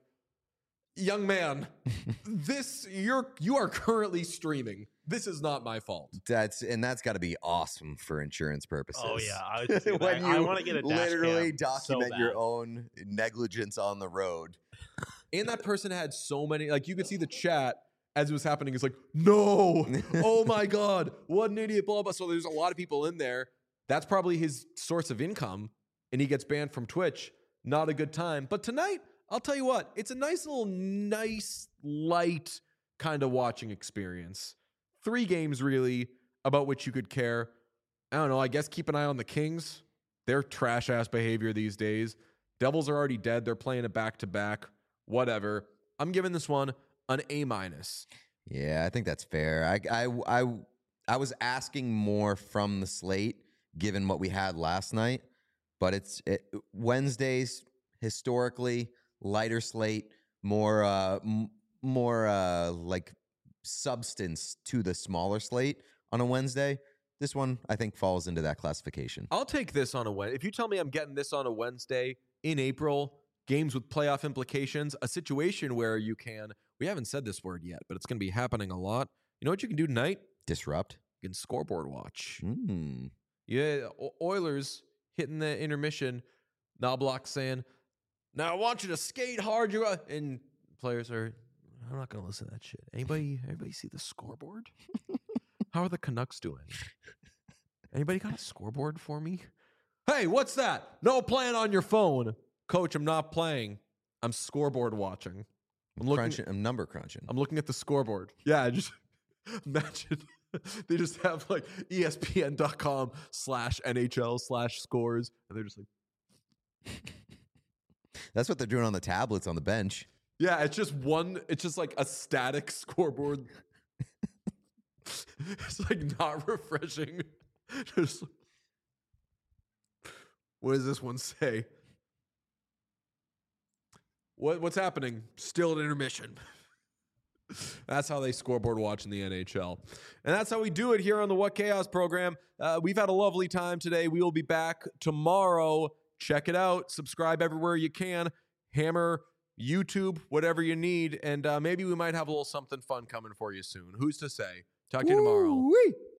young man, this, you're, you are currently streaming. This is not my fault. That's and that's got to be awesome for insurance purposes. Oh yeah, I, was just gonna- when I, you I want to get a dash literally cam so document your bad. own negligence on the road. And that person had so many, like, you could see the chat as it was happening. It's like, no, oh my God, what an idiot, blah, blah. So there's a lot of people in there. That's probably his source of income. And he gets banned from Twitch. Not a good time. But tonight, I'll tell you what, it's a nice little, nice, light kind of watching experience. Three games, really, about which you could care. I don't know, I guess keep an eye on the Kings. They're trash-ass behavior these days. Devils are already dead. They're playing it back-to-back. Whatever. I'm giving this one an A minus. Yeah, I think that's fair. I, I, I, I was asking more from the slate, given what we had last night. But it's it, Wednesdays, historically, lighter slate, more, uh, m- more uh, like substance to the smaller slate on a Wednesday. This one, I think, falls into that classification. I'll take this on a Wednesday. If you tell me I'm getting this on a Wednesday in April, games with playoff implications, a situation where you can, we haven't said this word yet, but it's going to be happening a lot. You know what you can do tonight? Disrupt. You can scoreboard watch. Mm. Yeah, O- Oilers hitting the intermission. Knobloch saying, now I want you to skate hard. You are-" And players are, I'm not going to listen to that shit. Anybody, anybody see the scoreboard? How are the Canucks doing? Anybody got a scoreboard for me? Hey, what's that? No playing on your phone. Coach, I'm not playing. I'm scoreboard watching. I'm looking, Crunching, I'm number crunching. I'm looking at the scoreboard. Yeah, I just imagine they just have like E S P N dot com slash N H L slash scores. And they're just like, That's what they're doing on the tablets on the bench. yeah, it's just one, it's just like a static scoreboard. It's like not refreshing. Just, what does this one say? What what's happening? Still at intermission. That's how they scoreboard watch in the N H L. And that's how we do it here on the What Chaos program. Uh, we've had a lovely time today. We will be back tomorrow. Check it out. Subscribe everywhere you can. Hammer, YouTube, whatever you need. And uh, maybe we might have a little something fun coming for you soon. Who's to say? Talk to you tomorrow. Woo-wee.